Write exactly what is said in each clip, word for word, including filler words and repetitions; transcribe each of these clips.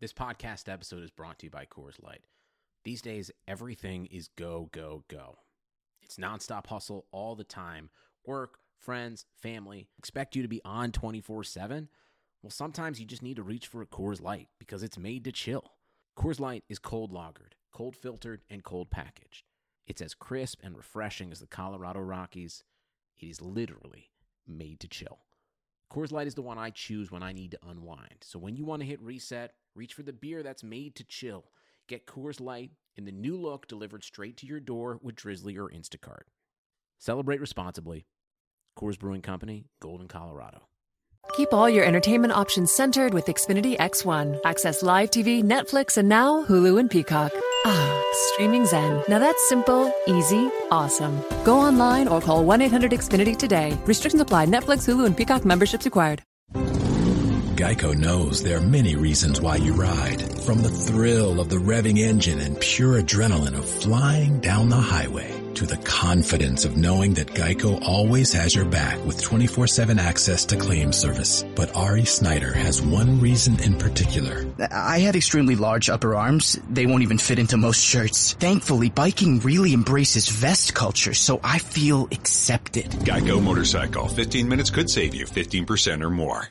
This podcast episode is brought to you by Coors Light. These days, everything is go, go, go. It's nonstop hustle all the time. Work, friends, family, expect you to be on twenty-four seven. Well, sometimes you just need to reach for a Coors Light because it's made to chill. Coors Light is cold lagered, cold filtered, and cold packaged. It's as crisp and refreshing as the Colorado Rockies. It is literally made to chill. Coors Light is the one I choose when I need to unwind. So when you want to hit reset, reach for the beer that's made to chill. Get Coors Light in the new look delivered straight to your door with Drizzly or Instacart. Celebrate responsibly. Coors Brewing Company, Golden, Colorado. Keep all your entertainment options centered with Xfinity X one. Access live T V, Netflix, and now Hulu and Peacock. Ah, streaming zen. Now that's simple, easy, awesome. Go online or call one eight hundred X Finity today. Restrictions apply. Netflix, Hulu, and Peacock memberships required. Geico knows there are many reasons why you ride. From the thrill of the revving engine and pure adrenaline of flying down the highway to the confidence of knowing that Geico always has your back with twenty-four seven access to claim service. But Ari Snyder has one reason in particular. I have extremely large upper arms. They won't even fit into most shirts. Thankfully, biking really embraces vest culture, so I feel accepted. Geico Motorcycle. fifteen minutes could save you fifteen percent or more.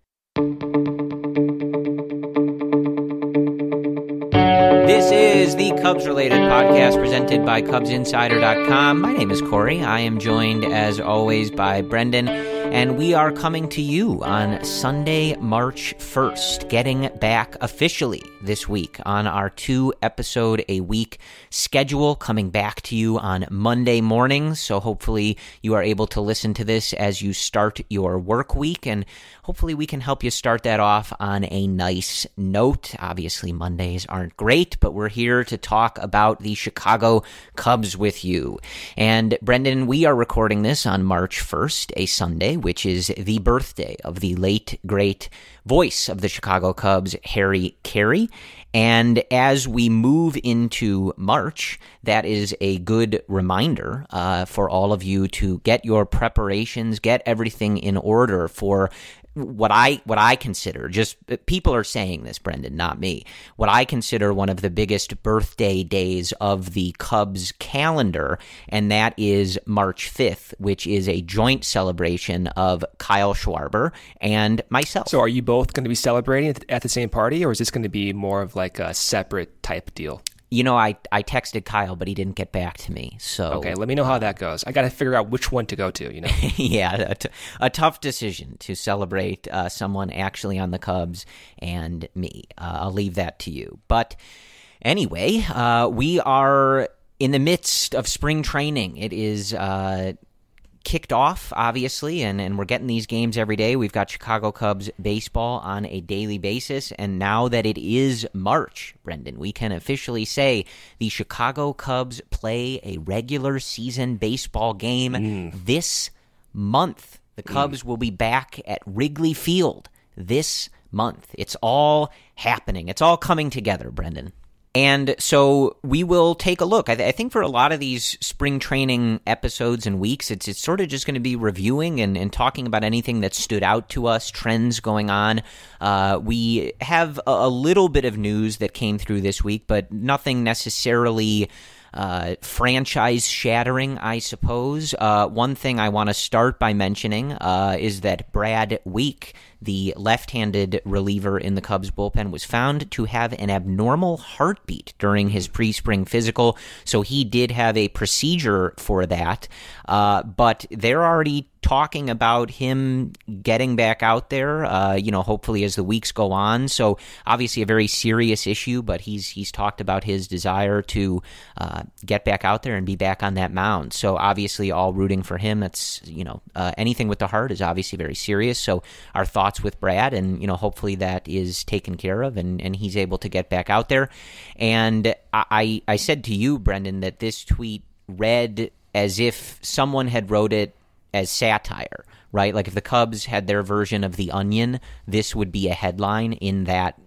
This is the Cubs-related podcast presented by Cubs Insider dot com. My name is Corey. I am joined, as always, by Brendan, and we are coming to you on Sunday, March first, getting back officially this week on our two-episode-a-week schedule, coming back to you on Monday mornings, so hopefully you are able to listen to this as you start your work week, and hopefully we can help you start that off on a nice note. Obviously, Mondays aren't great, but we're here to talk about the Chicago Cubs with you. And Brendan, we are recording this on March first, a Sunday, which is the birthday of the late, great voice of the Chicago Cubs, Harry Caray. And as we move into March, that is a good reminder uh, for all of you to get your preparations, get everything in order for what I what I consider, just people are saying this, Brendan, not me, what I consider one of the biggest birthday days of the Cubs calendar, and that is March fifth, which is a joint celebration of Kyle Schwarber and myself. So are you both going to be celebrating at the same party, or is this going to be more of like a separate type deal? You know, I, I texted Kyle, but he didn't get back to me. So okay, let me know how that goes. I got to figure out which one to go to, you know? yeah, a, t- a tough decision to celebrate uh, someone actually on the Cubs and me. Uh, I'll leave that to you. But anyway, uh, we are in the midst of spring training. It is uh, kicked off, obviously, and, and we're getting these games every day. We've got Chicago Cubs baseball on a daily basis, and now that it is March, Brendan, we can officially say the Chicago Cubs play a regular season baseball game mm. this month. The Cubs mm. will be back at Wrigley Field this month. It's all happening. It's all coming together, Brendan. And so we will take a look. I, th- I think for a lot of these spring training episodes and weeks, it's it's sort of just going to be reviewing and, and talking about anything that stood out to us, trends going on. Uh, we have a, a little bit of news that came through this week, but nothing necessarily uh, franchise-shattering, I suppose. Uh, one thing I want to start by mentioning uh, is that Brad Week, the left-handed reliever in the Cubs bullpen, was found to have an abnormal heartbeat during his pre-spring physical, so he did have a procedure for that, uh, but they're already talking about him getting back out there, uh, you know, hopefully as the weeks go on. So obviously a very serious issue, but he's he's talked about his desire to uh, get back out there and be back on that mound. So obviously all rooting for him. That's, you know, uh, anything with the heart is obviously very serious. So our thoughts with Brad, and, you know, hopefully that is taken care of and, and he's able to get back out there. And I, I said to you, Brendan, that this tweet read as if someone had wrote it as satire, right? Like if the Cubs had their version of The Onion, this would be a headline in that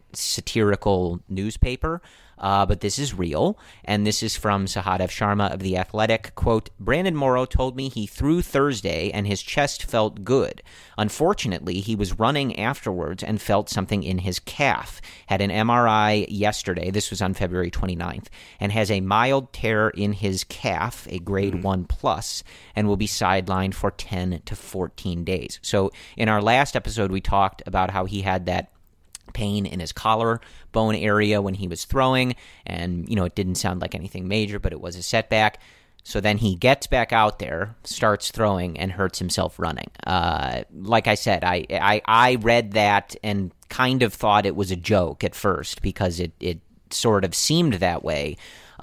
satirical newspaper. Uh, but this is real, and this is from Sahadev Sharma of The Athletic. Quote, Brandon Morrow told me he threw Thursday and his chest felt good. Unfortunately, he was running afterwards and felt something in his calf. Had an M R I yesterday, this was on February twenty-ninth, and has a mild tear in his calf, a grade mm. one plus, and will be sidelined for ten to fourteen days. So in our last episode, we talked about how he had that pain in his collar bone area when he was throwing, and you know it didn't sound like anything major, but it was a setback. So then he gets back out there, starts throwing, and hurts himself running. Uh, like I said, I, I I read that and kind of thought it was a joke at first because it it sort of seemed that way.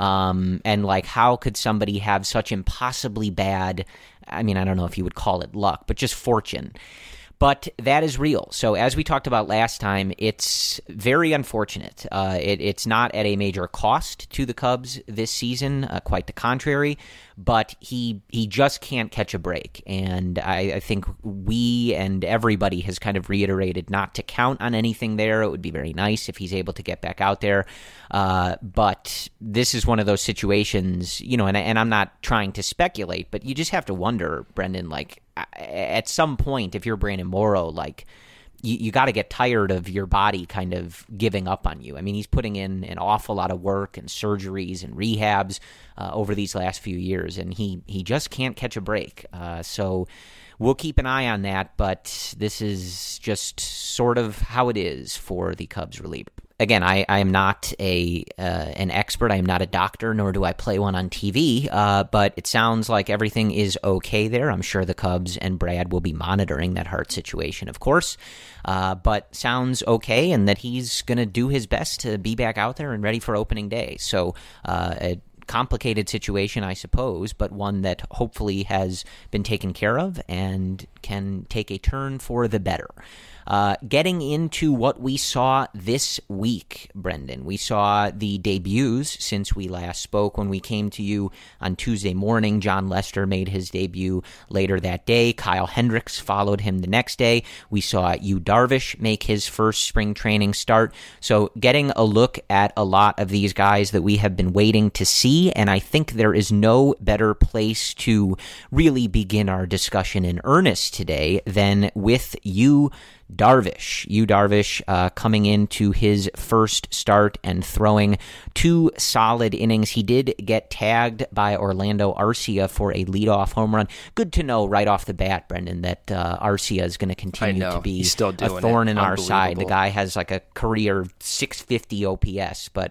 Um, and like, how could somebody have such impossibly bad? I mean, I don't know if you would call it luck, but just fortune. But that is real. So as we talked about last time, it's very unfortunate. Uh, it, it's not at a major cost to the Cubs this season, uh, quite the contrary. But he he just can't catch a break. And I, I think we and everybody has kind of reiterated not to count on anything there. It would be very nice if he's able to get back out there. Uh, but this is one of those situations, you know, and, and I'm not trying to speculate, but you just have to wonder, Brendan, like, at some point, if you're Brandon Morrow, like, you, you got to get tired of your body kind of giving up on you. I mean, he's putting in an awful lot of work and surgeries and rehabs uh, over these last few years, and he, he just can't catch a break. Uh, so we'll keep an eye on that, but this is just sort of how it is for the Cubs reliever. Again, I, I am not a uh, an expert. I am not a doctor, nor do I play one on T V, uh, but it sounds like everything is okay there. I'm sure the Cubs and Brad will be monitoring that heart situation, of course, uh, but sounds okay, and that he's going to do his best to be back out there and ready for opening day. So uh, a complicated situation, I suppose, but one that hopefully has been taken care of and can take a turn for the better. Uh, getting into what we saw this week, Brendan. We saw the debuts since we last spoke. When we came to you on Tuesday morning, John Lester made his debut later that day. Kyle Hendricks followed him the next day. We saw Yu Darvish make his first spring training start. So getting a look at a lot of these guys that we have been waiting to see, and I think there is no better place to really begin our discussion in earnest today than with Yu Darvish. Yu Darvish uh, coming into his first start and throwing two solid innings. He did get tagged by Orlando Arcia for a leadoff home run. Good to know right off the bat, Brendan, that uh, Arcia is going to continue to be still a thorn in our side. The guy has like a career six fifty O P S, but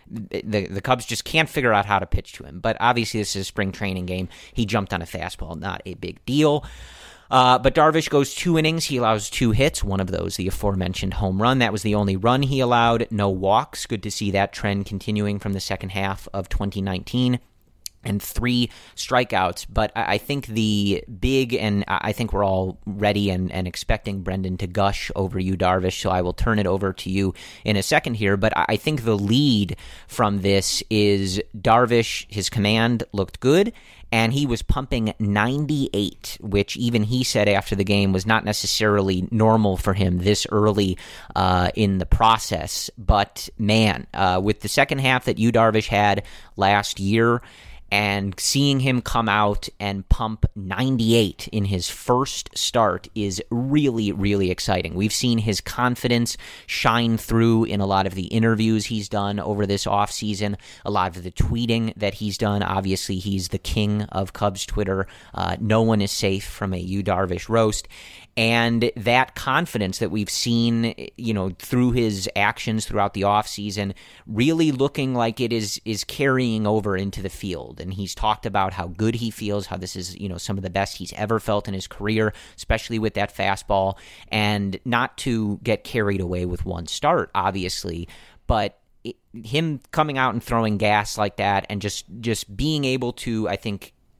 the the Cubs just can't figure out how to pitch to him. But obviously this is a spring training game. He jumped on a fastball, not a big deal. Uh, but Darvish goes two innings. He allows two hits, one of those the aforementioned home run. That was the only run he allowed. No walks. Good to see that trend continuing from the second half of twenty nineteen. And three strikeouts. But I think the big, and I think we're all ready and, and expecting Brendan to gush over Yu Darvish, so I will turn it over to you in a second here. But I think the lead from this is Darvish, his command looked good, and he was pumping ninety-eight, which even he said after the game was not necessarily normal for him this early uh, in the process. But man, uh, with the second half that Yu Darvish had last year, and seeing him come out and pump ninety-eight in his first start is really, really exciting. We've seen his confidence shine through in a lot of the interviews he's done over this offseason, a lot of the tweeting that he's done. Obviously, he's the king of Cubs Twitter. Uh, no one is safe from a Yu Darvish roast. And that confidence that we've seen, you know, through his actions throughout the offseason, really looking like it is is carrying over into the field. And he's talked about how good he feels, how this is, you know, some of the best he's ever felt in his career, especially with that fastball. And not to get carried away with one start, obviously, but it, him coming out and throwing gas like that and just just being able to, I think,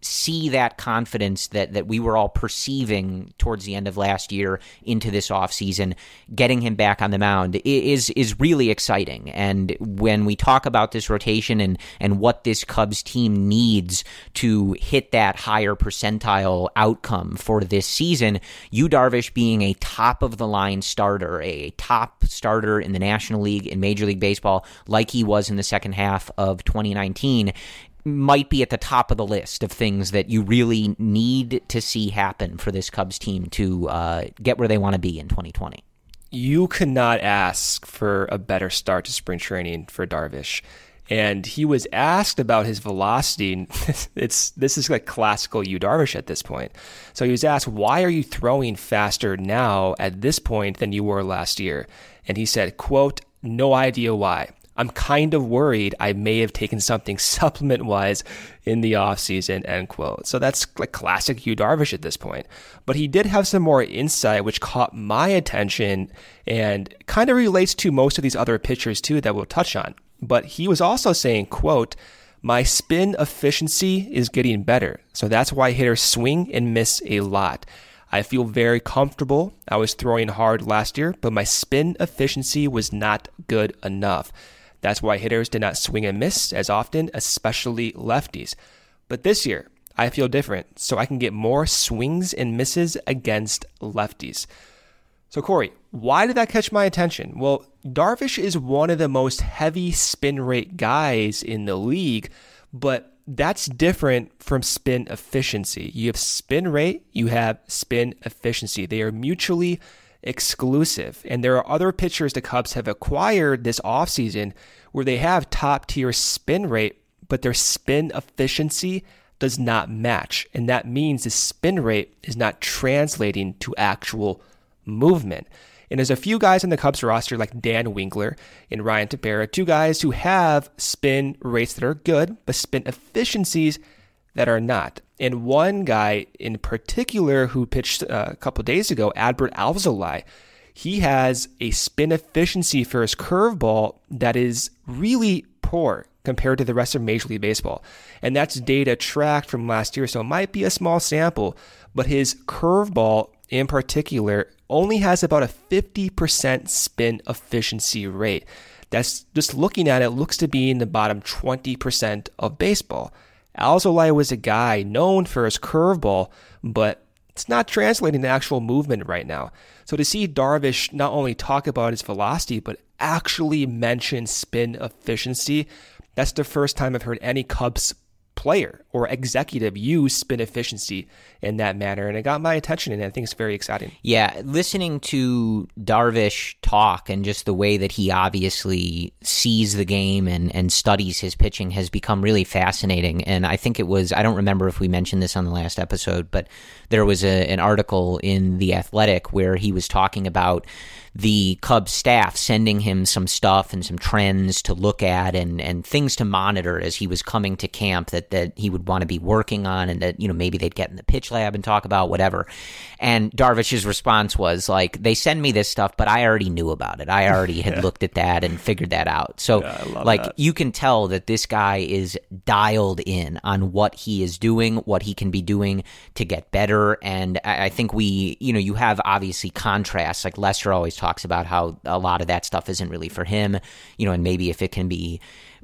see that confidence that, that we were all perceiving towards the end of last year into this offseason, getting him back on the mound is is really exciting. And when we talk about this rotation and, and what this Cubs team needs to hit that higher percentile outcome for this season, Yu Darvish being a top-of-the-line starter, a top starter in the National League, in Major League Baseball, like he was in the second half of twenty nineteen, might be at the top of the list of things that you really need to see happen for this Cubs team to uh, get where they want to be in twenty twenty. You could not ask for a better start to spring training for Darvish. And he was asked about his velocity. It's this is like classical Yu Darvish at this point. So he was asked, why are you throwing faster now at this point than you were last year? And he said, quote, no idea why. I'm kind of worried I may have taken something supplement-wise in the offseason, end quote. So that's like classic Yu Darvish at this point. But he did have some more insight, which caught my attention and kind of relates to most of these other pitchers, too, that we'll touch on. But he was also saying, quote, my spin efficiency is getting better. So that's why hitters swing and miss a lot. I feel very comfortable. I was throwing hard last year, but my spin efficiency was not good enough. That's why hitters did not swing and miss as often, especially lefties. But this year, I feel different, so I can get more swings and misses against lefties. So Corey, why did that catch my attention? Well, Darvish is one of the most heavy spin rate guys in the league, but that's different from spin efficiency. You have spin rate, you have spin efficiency. They are mutually exclusive. And there are other pitchers the Cubs have acquired this offseason where they have top-tier spin rate, but their spin efficiency does not match. And that means the spin rate is not translating to actual movement. And there's a few guys in the Cubs roster like Dan Winkler and Ryan Tepera, two guys who have spin rates that are good, but spin efficiencies that are not. And one guy in particular who pitched uh, a couple of days ago, Adbert Alzolay, he has a spin efficiency for his curveball that is really poor compared to the rest of Major League Baseball. And that's data tracked from last year, so it might be a small sample, but his curveball in particular only has about a fifty percent spin efficiency rate. That's just looking at it, looks to be in the bottom twenty percent of baseball. Alzolay was a guy known for his curveball, but it's not translating to actual movement right now. So to see Darvish not only talk about his velocity, but actually mention spin efficiency, that's the first time I've heard any Cubs player or executive use spin efficiency in that manner, and it got my attention, and I think it's very exciting. Yeah, listening to Darvish talk and just the way that he obviously sees the game and, and studies his pitching has become really fascinating. And I think it was, I don't remember if we mentioned this on the last episode, but there was a, an article in The Athletic where he was talking about the Cubs staff sending him some stuff and some trends to look at and, and things to monitor as he was coming to camp that, that he would want to be working on, and that, you know, maybe they'd get in the pitch lab and talk about whatever. And Darvish's response was like, they send me this stuff, but I already knew about it. I already had yeah. looked at that and figured that out. So yeah, like that. You can tell that this guy is dialed in on what he is doing, what he can be doing to get better. And I, I think we, you know, you have obviously contrasts, like Lester always talks about how a lot of that stuff isn't really for him, you know, and maybe if it can be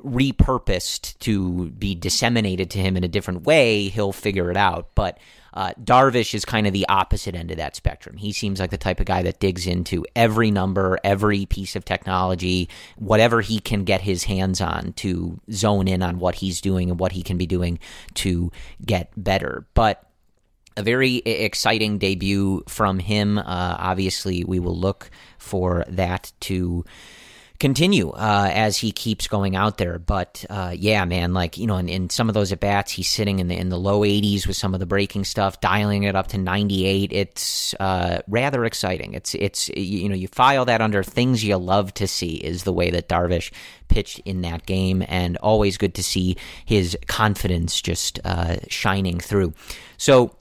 repurposed to be disseminated to him in a different way, he'll figure it out. But uh, Darvish is kind of the opposite end of that spectrum. He seems like the type of guy that digs into every number, every piece of technology, whatever he can get his hands on to zone in on what he's doing and what he can be doing to get better. But a very exciting debut from him. Uh, obviously, we will look for that to continue uh, as he keeps going out there. But uh, yeah, man, like, you know, in, in some of those at bats, he's sitting in the in the low eighties with some of the breaking stuff, dialing it up to ninety-eight. It's uh, rather exciting. It's it's you know, you file that under things you love to see is the way that Darvish pitched in that game, and always good to see his confidence just uh, shining through. So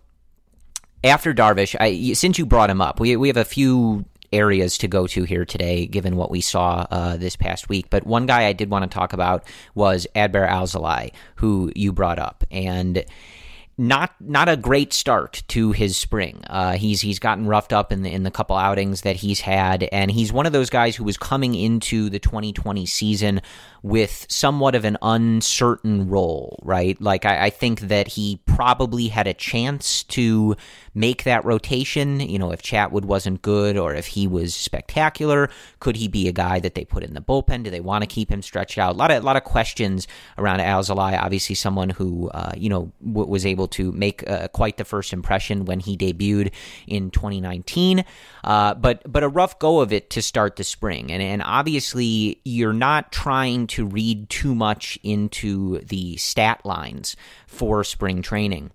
after Darvish, I, since you brought him up, we we have a few areas to go to here today, given what we saw uh, this past week. But one guy I did want to talk about was Adbert Alzolay, who you brought up. And not not a great start to his spring. Uh, he's he's gotten roughed up in the in the couple outings that he's had, and he's one of those guys who was coming into the twenty twenty season with somewhat of an uncertain role, right? Like I, I think that he probably had a chance to make that rotation. You know, if Chatwood wasn't good or if he was spectacular, could he be a guy that they put in the bullpen? Do they want to keep him stretched out? A lot of a lot of questions around Alzolay. Obviously, someone who uh, you know w- was able to make uh, quite the first impression when he debuted in twenty nineteen. Uh, but but a rough go of it to start the spring, and and obviously you're not trying to read too much into the stat lines for spring training,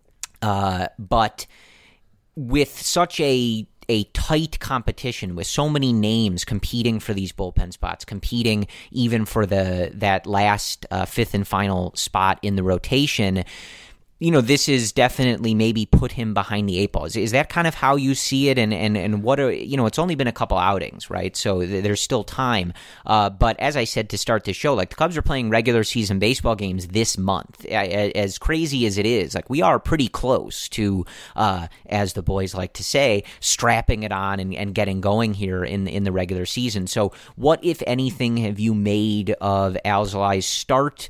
uh, but with such a a tight competition, with so many names competing for these bullpen spots, competing even for the that last uh, fifth and final spot in the rotation, you know, this is definitely maybe put him behind the eight ball. Is, is that kind of how you see it? And, and, and what are, you know, it's only been a couple outings, right? So th- there's still time. Uh, but as I said to start the show, like the Cubs are playing regular season baseball games this month. As crazy as it is, like we are pretty close to, uh, as the boys like to say, strapping it on and, and getting going here in, in the regular season. So what, if anything, have you made of Alzolay's start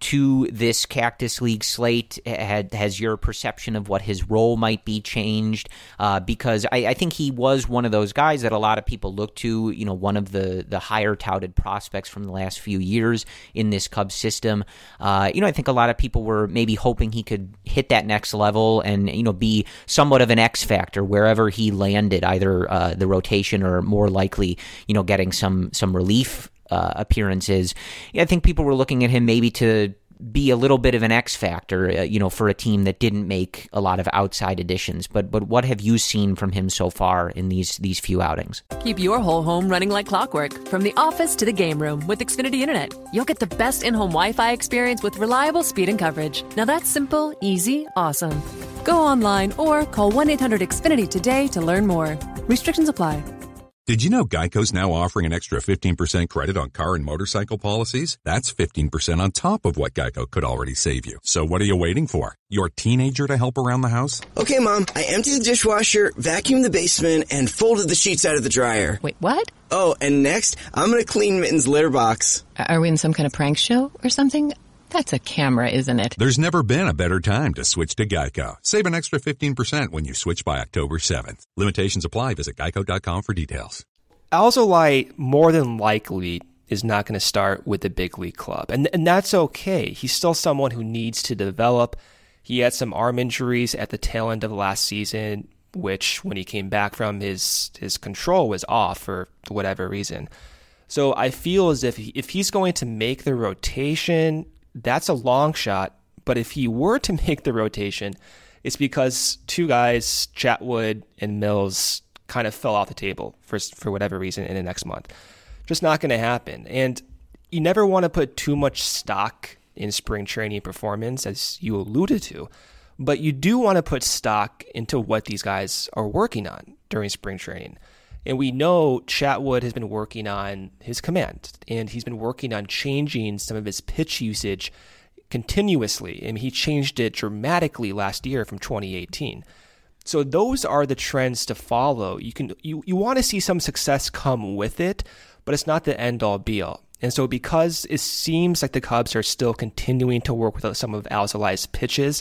to this Cactus League slate? Had, has your perception of what his role might be changed? Uh, because I, I think he was one of those guys that a lot of people look to, you know, one of the, the higher touted prospects from the last few years in this Cubs system. Uh, you know, I think a lot of people were maybe hoping he could hit that next level and, you know, be somewhat of an X factor wherever he landed, either uh, the rotation or more likely, you know, getting some, some relief Uh, appearances. I think people were looking at him maybe to be a little bit of an X factor, uh, you know, for a team that didn't make a lot of outside additions. But but what have you seen from him so far in these these few outings? Keep your whole home running like clockwork, from the office to the game room with Xfinity Internet. You'll get the best in-home Wi-Fi experience with reliable speed and coverage. Now that's simple, easy, awesome. Go online or call one eight hundred X Finity today to learn more. Restrictions apply. Did you know Geico's now offering an extra fifteen percent credit on car and motorcycle policies? That's fifteen percent on top of what Geico could already save you. So what are you waiting for? Your teenager to help around the house? Okay, Mom, I emptied the dishwasher, vacuumed the basement, and folded the sheets out of the dryer. Wait, what? Oh, and next, I'm going to clean Mitten's litter box. Are we in some kind of prank show or something? That's a camera, isn't it? There's never been a better time to switch to Geico. Save an extra fifteen percent when you switch by October seventh. Limitations apply. Visit geico dot com for details. Alzolay more than likely is not going to start with the big league club. And and that's okay. He's still someone who needs to develop. He had some arm injuries at the tail end of last season, which when he came back from, his his control was off for whatever reason. So I feel as if he, if he's going to make the rotation, that's a long shot. But if he were to make the rotation, it's because two guys, Chatwood and Mills, kind of fell off the table for for whatever reason in the next month. Just not going to happen. And you never want to put too much stock in spring training performance, as you alluded to, but you do want to put stock into what these guys are working on during spring training. And we know Chatwood has been working on his command, and he's been working on changing some of his pitch usage continuously. I mean, he changed it dramatically last year from twenty eighteen. So those are the trends to follow. You can you, you want to see some success come with it, but it's not the end-all be-all. And so because it seems like the Cubs are still continuing to work with some of Alzolay's pitches,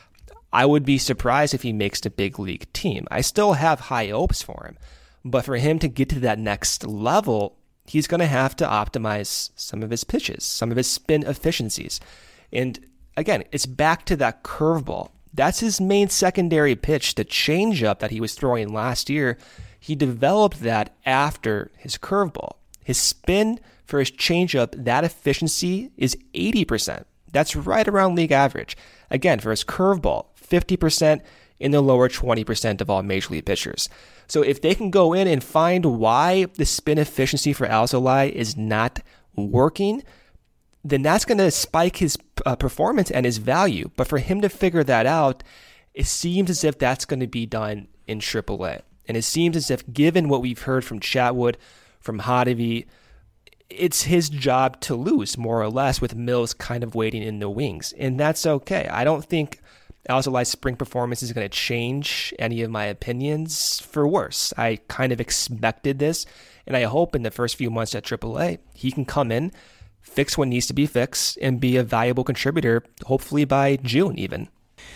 I would be surprised if he makes the big league team. I still have high hopes for him, but for him to get to that next level, he's going to have to optimize some of his pitches, some of his spin efficiencies. And again, it's back to that curveball. That's his main secondary pitch, the changeup that he was throwing last year. He developed that after his curveball. His spin for his changeup, that efficiency is eighty percent. That's right around league average. Again, for his curveball, fifty percent in the lower twenty percent of all major league pitchers. So if they can go in and find why the spin efficiency for Alzolay is not working, then that's going to spike his uh, performance and his value. But for him to figure that out, it seems as if that's going to be done in triple A. And it seems as if, given what we've heard from Chatwood, from Hottovy, it's his job to lose, more or less, with Mills kind of waiting in the wings. And that's okay. I don't think Alzolay's spring performance is going to change any of my opinions for worse. I kind of expected this, and I hope in the first few months at triple A, he can come in, fix what needs to be fixed, and be a valuable contributor, hopefully by June even.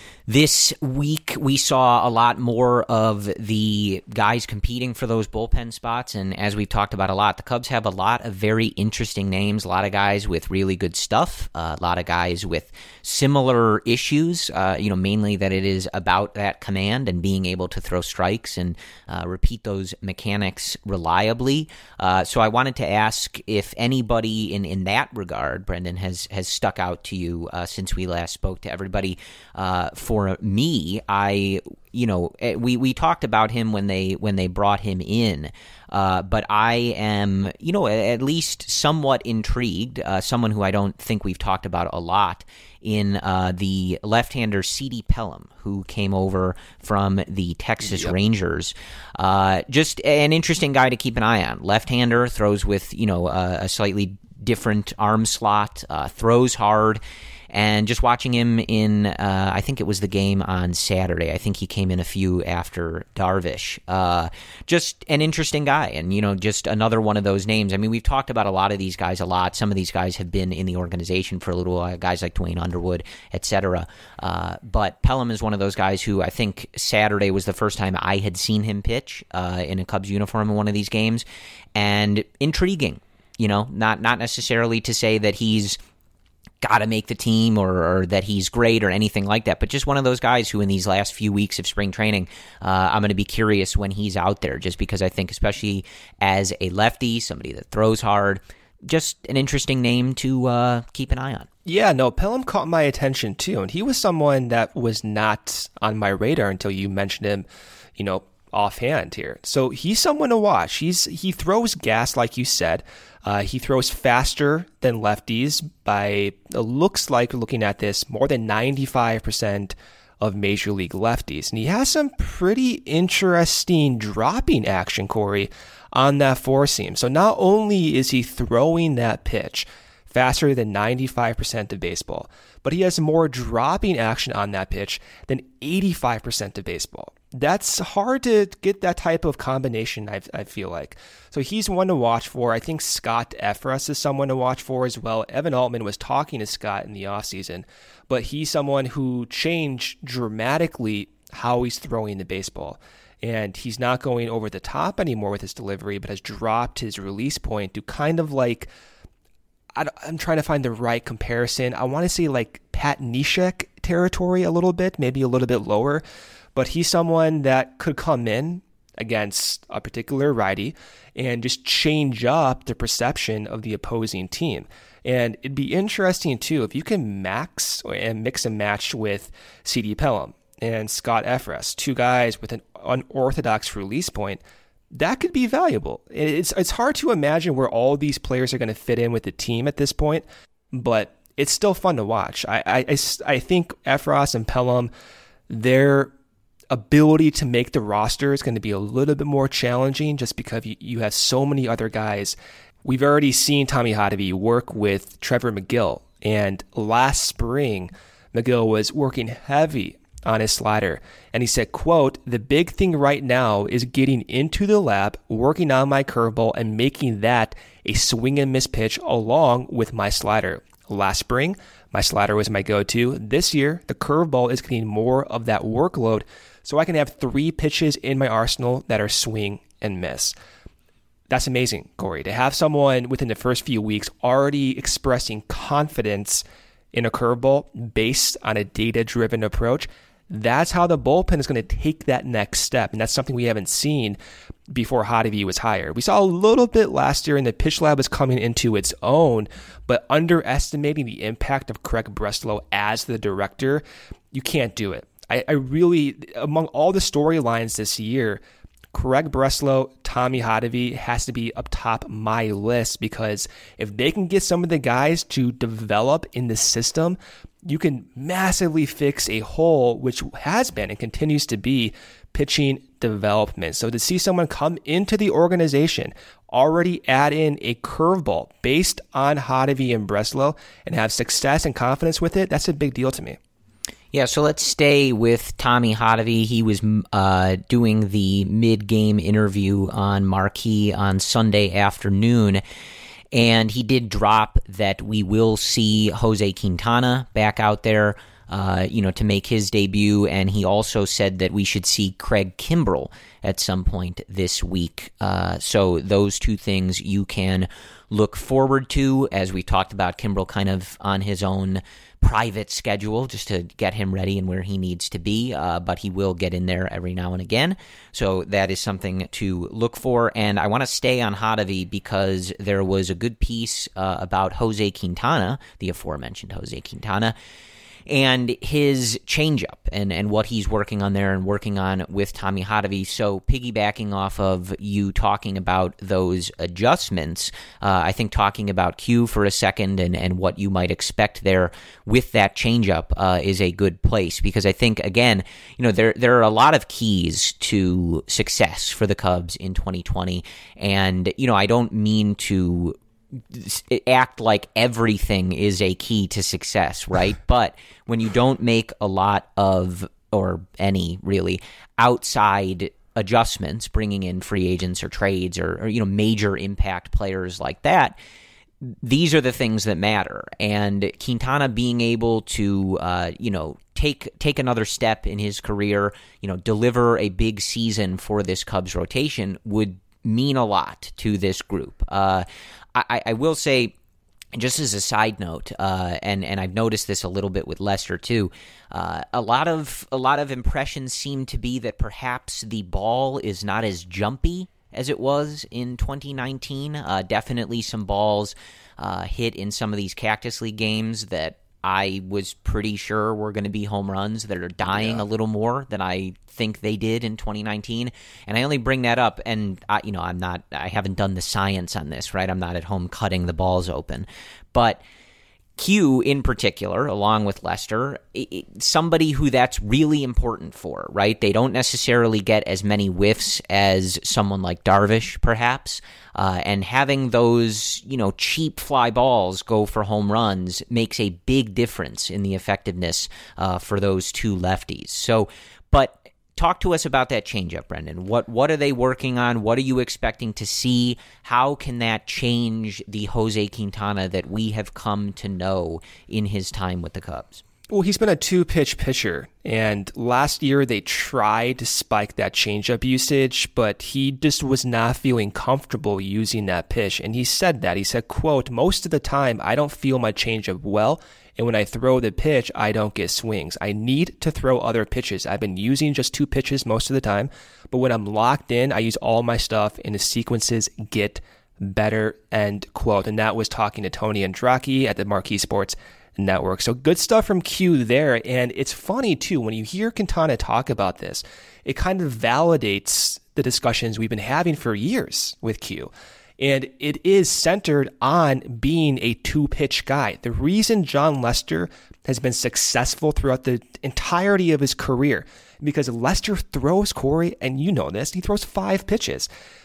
This week, we saw a lot more of the guys competing for those bullpen spots, and as we've talked about a lot, the Cubs have a lot of very interesting names, a lot of guys with really good stuff, uh, a lot of guys with similar issues, uh, you know, mainly that it is about that command and being able to throw strikes and uh, repeat those mechanics reliably. Uh, so I wanted to ask if anybody in, in that regard, Brendan, has, has stuck out to you uh, since we last spoke to everybody. Uh, for me, I, you know, we, we talked about him when they when they brought him in, uh, but I am, you know, at least somewhat intrigued, uh, someone who I don't think we've talked about a lot, in uh, the left-hander C D Pelham, who came over from the Texas yep. Rangers. Uh, just an interesting guy to keep an eye on. Left-hander, throws with, you know, uh, a slightly different arm slot, uh, throws hard. And just watching him in, uh, I think it was the game on Saturday. I think he came in a few after Darvish. Uh, just an interesting guy, and, you know, just another one of those names. I mean, we've talked about a lot of these guys a lot. Some of these guys have been in the organization for a little while, guys like Dwayne Underwood, et cetera. Uh, but Pelham is one of those guys who I think Saturday was the first time I had seen him pitch uh, in a Cubs uniform in one of these games. And intriguing, you know, not not necessarily to say that he's got to make the team or, or that he's great or anything like that, but just one of those guys who in these last few weeks of spring training, uh, I'm going to be curious when he's out there, just because I think especially as a lefty, somebody that throws hard, just an interesting name to uh, keep an eye on. Yeah, no, Pelham caught my attention too, and he was someone that was not on my radar until you mentioned him, you know, offhand here. So he's someone to watch. He's he throws gas, like you said. Uh, he throws faster than lefties by, it looks like, looking at this, more than ninety-five percent of Major League lefties. And he has some pretty interesting dropping action, Corey, on that four seam. So not only is he throwing that pitch faster than ninety-five percent of baseball, but he has more dropping action on that pitch than eighty-five percent of baseball. That's hard to get that type of combination, I, I feel like. So he's one to watch for. I think Scott Effross is someone to watch for as well. Evan Altman was talking to Scott in the offseason, but he's someone who changed dramatically how he's throwing the baseball. And he's not going over the top anymore with his delivery, but has dropped his release point to kind of like, I'm trying to find the right comparison. I want to say like Pat Neshek territory a little bit, maybe a little bit lower. But he's someone that could come in against a particular righty and just change up the perception of the opposing team. And it'd be interesting, too, if you can max and mix and match with C D Pelham and Scott Effross, two guys with an unorthodox release point, that could be valuable. It's, it's hard to imagine where all these players are going to fit in with the team at this point, but it's still fun to watch. I, I, I, I think Effross and Pelham, they're ability to make the roster is going to be a little bit more challenging just because you, you have so many other guys. We've already seen Tommy Hottovy work with Trevor Megill, and last spring, Megill was working heavy on his slider, and he said, quote, "The big thing right now is getting into the lab, working on my curveball, and making that a swing and miss pitch along with my slider. Last spring, my slider was my go-to. This year, the curveball is getting more of that workload, so I can have three pitches in my arsenal that are swing and miss." That's amazing, Corey, to have someone within the first few weeks already expressing confidence in a curveball based on a data-driven approach. That's how the bullpen is going to take that next step, and that's something we haven't seen before Hottovy was hired. We saw a little bit last year, and the pitch lab was coming into its own, but underestimating the impact of Craig Breslow as the director, you can't do it. I, I really, among all the storylines this year, Craig Breslow, Tommy Hottovy has to be up top my list, because if they can get some of the guys to develop in the system, you can massively fix a hole, which has been and continues to be pitching development. So to see someone come into the organization, already add in a curveball based on Hottovy and Breslow and have success and confidence with it, that's a big deal to me. Yeah, so let's stay with Tommy Hotovy. He was uh, doing the mid-game interview on Marquee on Sunday afternoon, and he did drop that we will see Jose Quintana back out there, uh, you know, to make his debut, and he also said that we should see Craig Kimbrell at some point this week. Uh, so those two things you can look forward to, as we talked about Kimbrell kind of on his own private schedule just to get him ready and where he needs to be, uh, but he will get in there every now and again. So that is something to look for. And I want to stay on Hotovy because there was a good piece uh, about Jose Quintana, the aforementioned Jose Quintana, and his changeup and, and what he's working on there and working on with Tommy Hotovy. So piggybacking off of you talking about those adjustments, uh, I think talking about Q for a second and, and what you might expect there with that changeup uh, is a good place, because I think, again, you know, there there are a lot of keys to success for the Cubs in twenty twenty, and, you know, I don't mean to act like everything is a key to success, right? But when you don't make a lot of, or any really, outside adjustments, bringing in free agents or trades or, or you know, major impact players like that, these are the things that matter. And Quintana being able to, uh, you know, take take another step in his career, you know, deliver a big season for this Cubs rotation would mean a lot to this group. Uh, I, I will say, just as a side note, uh, and and I've noticed this a little bit with Lester too. Uh, a lot of a lot of impressions seem to be that perhaps the ball is not as jumpy as it was in twenty nineteen. Uh, definitely some balls uh, hit in some of these Cactus League games that I was pretty sure were going to be home runs that are dying yeah. a little more than I think they did in twenty nineteen. And I only bring that up, and I, you know, I'm not, I haven't done the science on this, right? I'm not at home cutting the balls open, but Q in particular, along with Lester, it, it, somebody who that's really important for, right? They don't necessarily get as many whiffs as someone like Darvish, perhaps, uh, and having those, you know, cheap fly balls go for home runs makes a big difference in the effectiveness uh, for those two lefties. So, but talk to us about that changeup, Brendan. What what are they working on? What are you expecting to see? How can that change the Jose Quintana that we have come to know in his time with the Cubs? Well, he's been a two-pitch pitcher, and last year they tried to spike that changeup usage, but he just was not feeling comfortable using that pitch, and he said that. He said, quote, "Most of the time, I don't feel my changeup well, and when I throw the pitch, I don't get swings. I need to throw other pitches. I've been using just two pitches most of the time, but when I'm locked in, I use all my stuff, and the sequences get better," end quote. And that was talking to Tony Andracki at the Marquee Sports Network. So good stuff from Q there. And it's funny too, when you hear Quintana talk about this, it kind of validates the discussions we've been having for years with Q. And it is centered on being a two-pitch guy. The reason Jon Lester has been successful throughout the entirety of his career, because Lester throws, Corey, and you know this, he throws five pitches.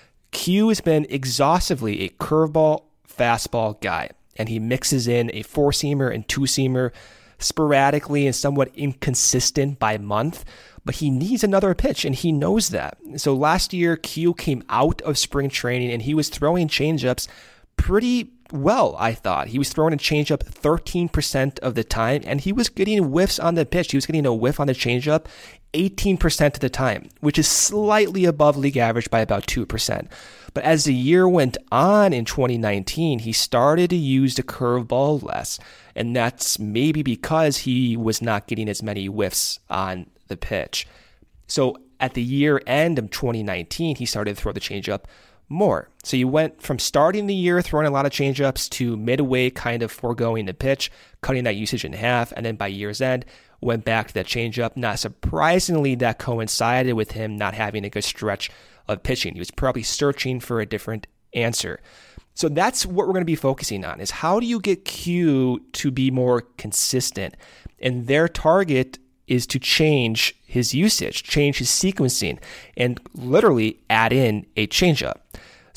Q has been exhaustively a curveball, fastball guy, and he mixes in a four-seamer and two-seamer sporadically and somewhat inconsistent by month, but he needs another pitch, and he knows that. So last year, Q came out of spring training, and he was throwing changeups pretty well, I thought. He was throwing a changeup thirteen percent of the time, and he was getting whiffs on the pitch. He was getting a whiff on the changeup eighteen percent of the time, which is slightly above league average by about two percent. But as the year went on in twenty nineteen, he started to use the curveball less, and that's maybe because he was not getting as many whiffs on the pitch. So at the year end of twenty nineteen, he started to throw the changeup more. So you went from starting the year throwing a lot of changeups to midway kind of foregoing the pitch, cutting that usage in half, and then by year's end, went back to that changeup. Not surprisingly, that coincided with him not having a good stretch of pitching. He was probably searching for a different answer. So that's what we're going to be focusing on, is how do you get Q to be more consistent? And their target is to change his usage, change his sequencing, and literally add in a changeup. So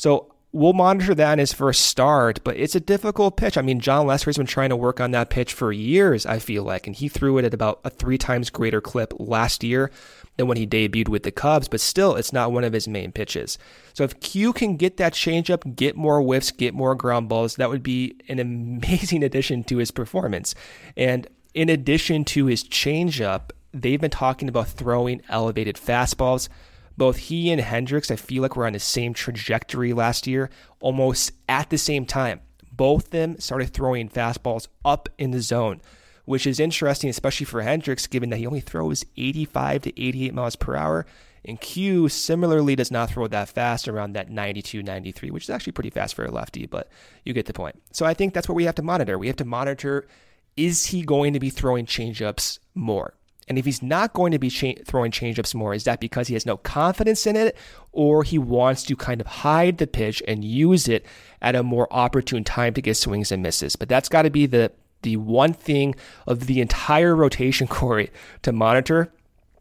we'll monitor that in his first start, but it's a difficult pitch. I mean, John Lester's been trying to work on that pitch for years, I feel like, and he threw it at about a three times greater clip last year than when he debuted with the Cubs, but still, it's not one of his main pitches. So if Q can get that changeup, get more whiffs, get more ground balls, that would be an amazing addition to his performance. And in addition to his changeup, they've been talking about throwing elevated fastballs. Both he and Hendricks, I feel like, were on the same trajectory last year, almost at the same time. Both of them started throwing fastballs up in the zone, which is interesting, especially for Hendricks, given that he only throws eighty-five to eighty-eight miles per hour. And Q similarly does not throw that fast, around that ninety-two, ninety-three, which is actually pretty fast for a lefty, but you get the point. So I think that's what we have to monitor. We have to monitor, is he going to be throwing changeups more? And if he's not going to be cha- throwing changeups more, is that because he has no confidence in it, or he wants to kind of hide the pitch and use it at a more opportune time to get swings and misses? But that's got to be the the one thing of the entire rotation, Corey, to monitor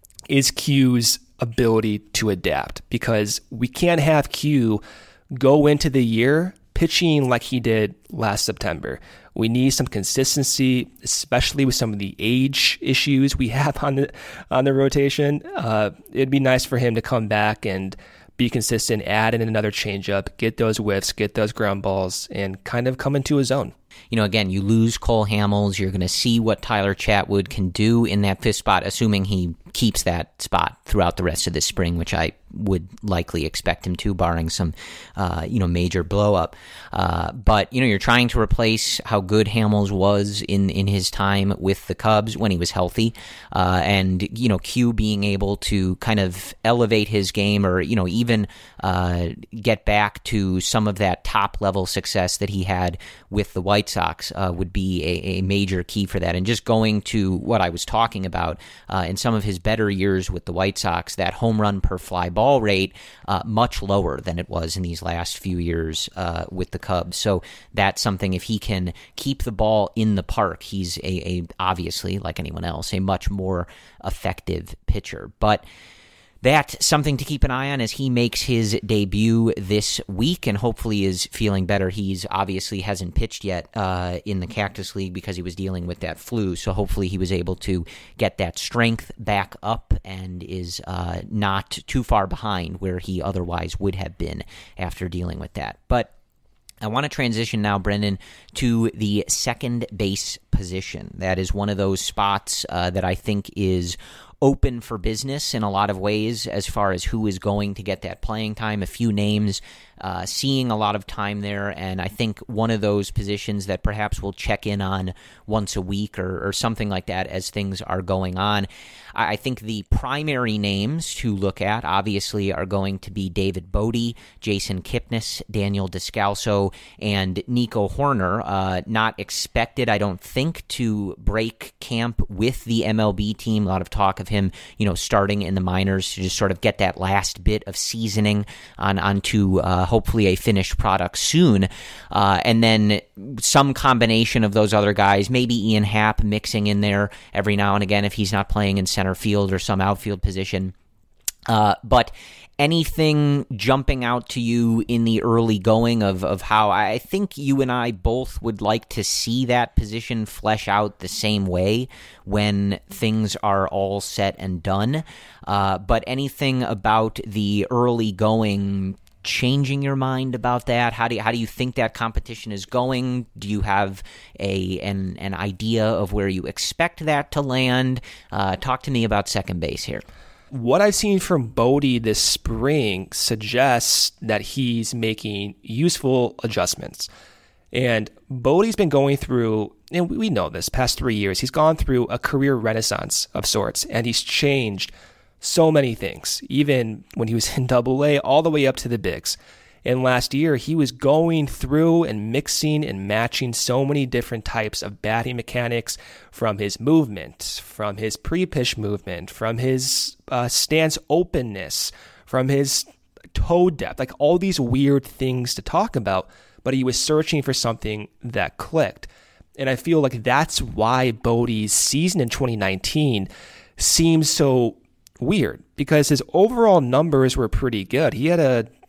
is Q's ability to adapt, because we can't have Q go into the year pitching like he did last September. We need some consistency, especially with some of the age issues we have on the on the rotation. Uh, it'd be nice for him to come back and be consistent, add in another changeup, get those whiffs, get those ground balls, and kind of come into his own. You know, again, you lose Cole Hamels. You're going to see what Tyler Chatwood can do in that fifth spot, assuming he keeps that spot throughout the rest of this spring, which I would likely expect him to, barring some, uh, you know, major blow up. Uh, but, you know, you're trying to replace how good Hamels was in, in his time with the Cubs when he was healthy. Uh, and, you know, Q being able to kind of elevate his game, or, you know, even uh, get back to some of that top level success that he had with the White Sox uh, would be a, a major key for that. And just going to what I was talking about uh, in some of his better years with the White Sox, that home run per fly ball rate uh, much lower than it was in these last few years uh, with the Cubs. So that's something, if he can keep the ball in the park, he's a, a obviously, like anyone else, a much more effective pitcher. But that's something to keep an eye on as he makes his debut this week and hopefully is feeling better. He's obviously hasn't pitched yet uh, in the Cactus League because he was dealing with that flu, so hopefully he was able to get that strength back up and is uh, not too far behind where he otherwise would have been after dealing with that. But I want to transition now, Brendan, to the second base position. That is one of those spots uh, that I think is open for business in a lot of ways as far as who is going to get that playing time. A few names uh, seeing a lot of time there, and I think one of those positions that perhaps we'll check in on once a week or, or something like that as things are going on. I think the primary names to look at, obviously, are going to be David Bote, Jason Kipnis, Daniel Descalso, and Nico Hoerner. Uh, not expected, I don't think, to break camp with the M L B team. A lot of talk of him, you know, starting in the minors to just sort of get that last bit of seasoning on onto uh, hopefully a finished product soon. Uh, and then some combination of those other guys, maybe Ian Happ mixing in there every now and again if he's not playing in center field or some outfield position. Uh, but anything jumping out to you in the early going of, of how I think you and I both would like to see that position flesh out the same way when things are all set and done. Uh, but anything about the early going changing your mind about that? How do you, how do you think that competition is going? Do you have a an, an idea of where you expect that to land? Uh, talk to me about second base here. What I've seen from Bote this spring suggests that he's making useful adjustments. And Bodie's been going through, and we know this, past three years, he's gone through a career renaissance of sorts, and he's changed so many things, even when he was in Double A, all the way up to the bigs. And last year, he was going through and mixing and matching so many different types of batting mechanics, from his movement, from his pre-pitch movement, from his uh, stance openness, from his toe depth, like all these weird things to talk about, but he was searching for something that clicked. And I feel like that's why Bote's season in twenty nineteen seems so weird, because his overall numbers were pretty good. He had a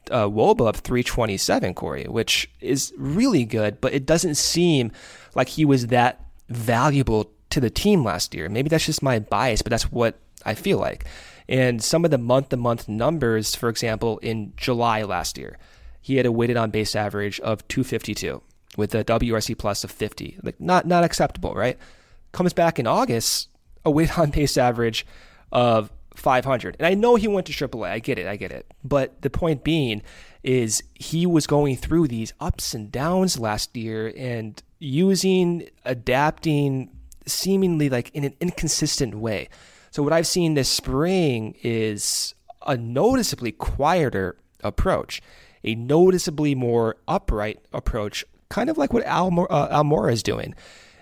uh, Woba of three twenty-seven, Corey, which is really good, but it doesn't seem like he was that valuable to the team last year. Maybe that's just my bias, but that's what I feel like. And some of the month-to-month numbers, for example, in July last year, he had a weighted on base average of two fifty-two with a W R C plus of fifty. Like not not acceptable, right? Comes back in August, a weighted on base average of five hundred. And I know he went to triple A. I get it. I get it. But the point being is he was going through these ups and downs last year and using, adapting, seemingly like in an inconsistent way. So what I've seen this spring is a noticeably quieter approach, a noticeably more upright approach, kind of like what Almora, uh, Almora is doing.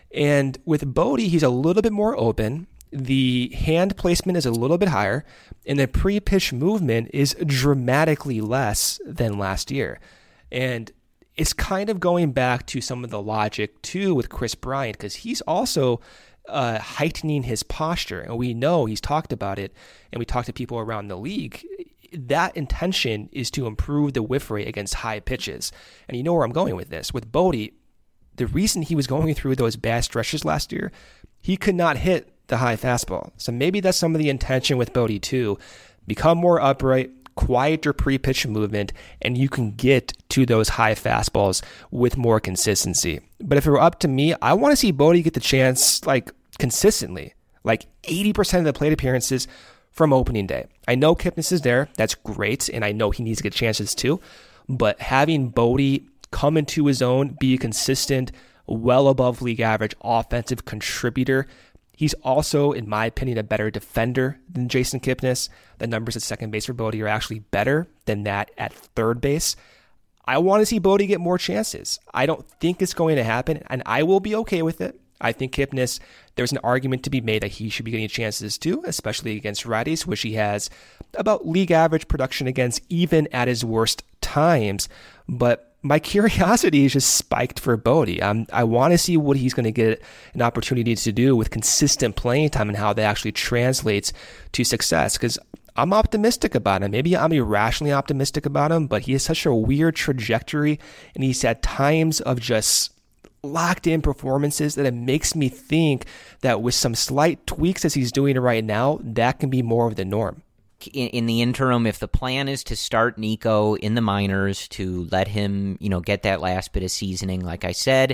And with Bote, he's a little bit more open. The hand placement is a little bit higher, and the pre-pitch movement is dramatically less than last year. And it's kind of going back to some of the logic, too, with Kris Bryant, because he's also uh, heightening his posture. And we know he's talked about it, and we talked to people around the league. That intention is to improve the whiff rate against high pitches. And you know where I'm going with this. With Bote, the reason he was going through those bad stretches last year, he could not hit the high fastball. So maybe that's some of the intention with Bote too. Become more upright, quieter pre-pitch movement, and you can get to those high fastballs with more consistency. But if it were up to me, I want to see Bote get the chance like consistently, like eighty percent of the plate appearances from opening day. I know Kipnis is there. That's great. And I know he needs to get chances too. But having Bote come into his own, be a consistent, well above league average offensive contributor. He's also, in my opinion, a better defender than Jason Kipnis. The numbers at second base for Bote are actually better than that at third base. I want to see Bote get more chances. I don't think it's going to happen, and I will be okay with it. I think Kipnis, there's an argument to be made that he should be getting chances too, especially against righties, which he has about league average production against even at his worst times. But my curiosity is just spiked for Bote. Um, I want to see what he's going to get an opportunity to do with consistent playing time and how that actually translates to success, because I'm optimistic about him. Maybe I'm irrationally optimistic about him, but he has such a weird trajectory, and he's had times of just locked in performances that it makes me think that with some slight tweaks as he's doing right now, that can be more of the norm. In, in the interim, if the plan is to start Nico in the minors, to let him, you know, get that last bit of seasoning, like I said,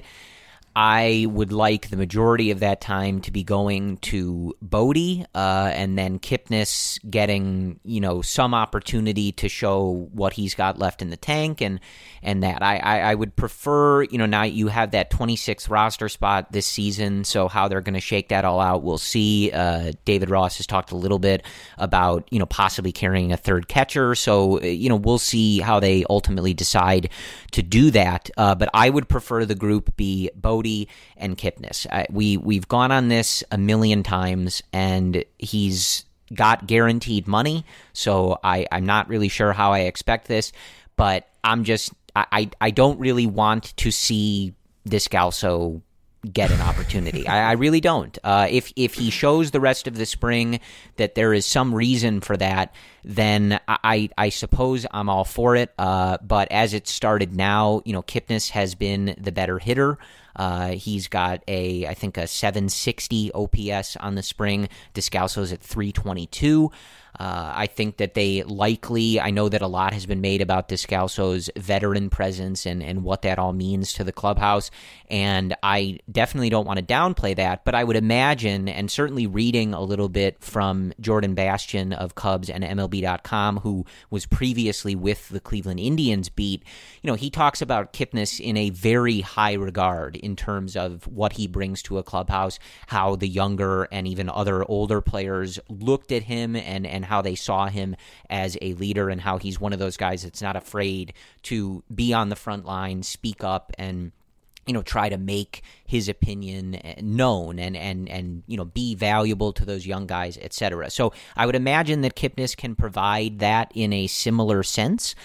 I would like the majority of that time to be going to Bote, uh, and then Kipnis getting, you know, some opportunity to show what he's got left in the tank, and and that. I, I, I would prefer, you know, now you have that twenty-sixth roster spot this season, so how they're going to shake that all out, we'll see. Uh, David Ross has talked a little bit about, you know, possibly carrying a third catcher, so, you know, we'll see how they ultimately decide to do that. Uh, but I would prefer the group be Bote and Kipnis. I, we, we've gone on this a million times, and he's got guaranteed money, so I, I'm not really sure how I expect this, but I'm just, I, I, I don't really want to see Descalso get an opportunity. I, I really don't. Uh, if if he shows the rest of the spring that there is some reason for that, then I I suppose I'm all for it. Uh, but as it started now, you know, Kipnis has been the better hitter. Uh, he's got a, I think, a seven sixty O P S on the spring. Descalso's at three twenty-two. Uh, I think that they likely, I know that a lot has been made about Descalso's veteran presence and, and what that all means to the clubhouse, and I definitely don't want to downplay that, but I would imagine, and certainly reading a little bit from Jordan Bastian of Cubs and M L B dot com, who was previously with the Cleveland Indians beat, you know, he talks about Kipnis in a very high regard in terms of what he brings to a clubhouse, how the younger and even other older players looked at him and, and how they saw him as a leader, and how he's one of those guys that's not afraid to be on the front line, speak up, and, you know, try to make his opinion known and, and, and, you know, be valuable to those young guys, et cetera. So I would imagine that Kipnis can provide that in a similar sense.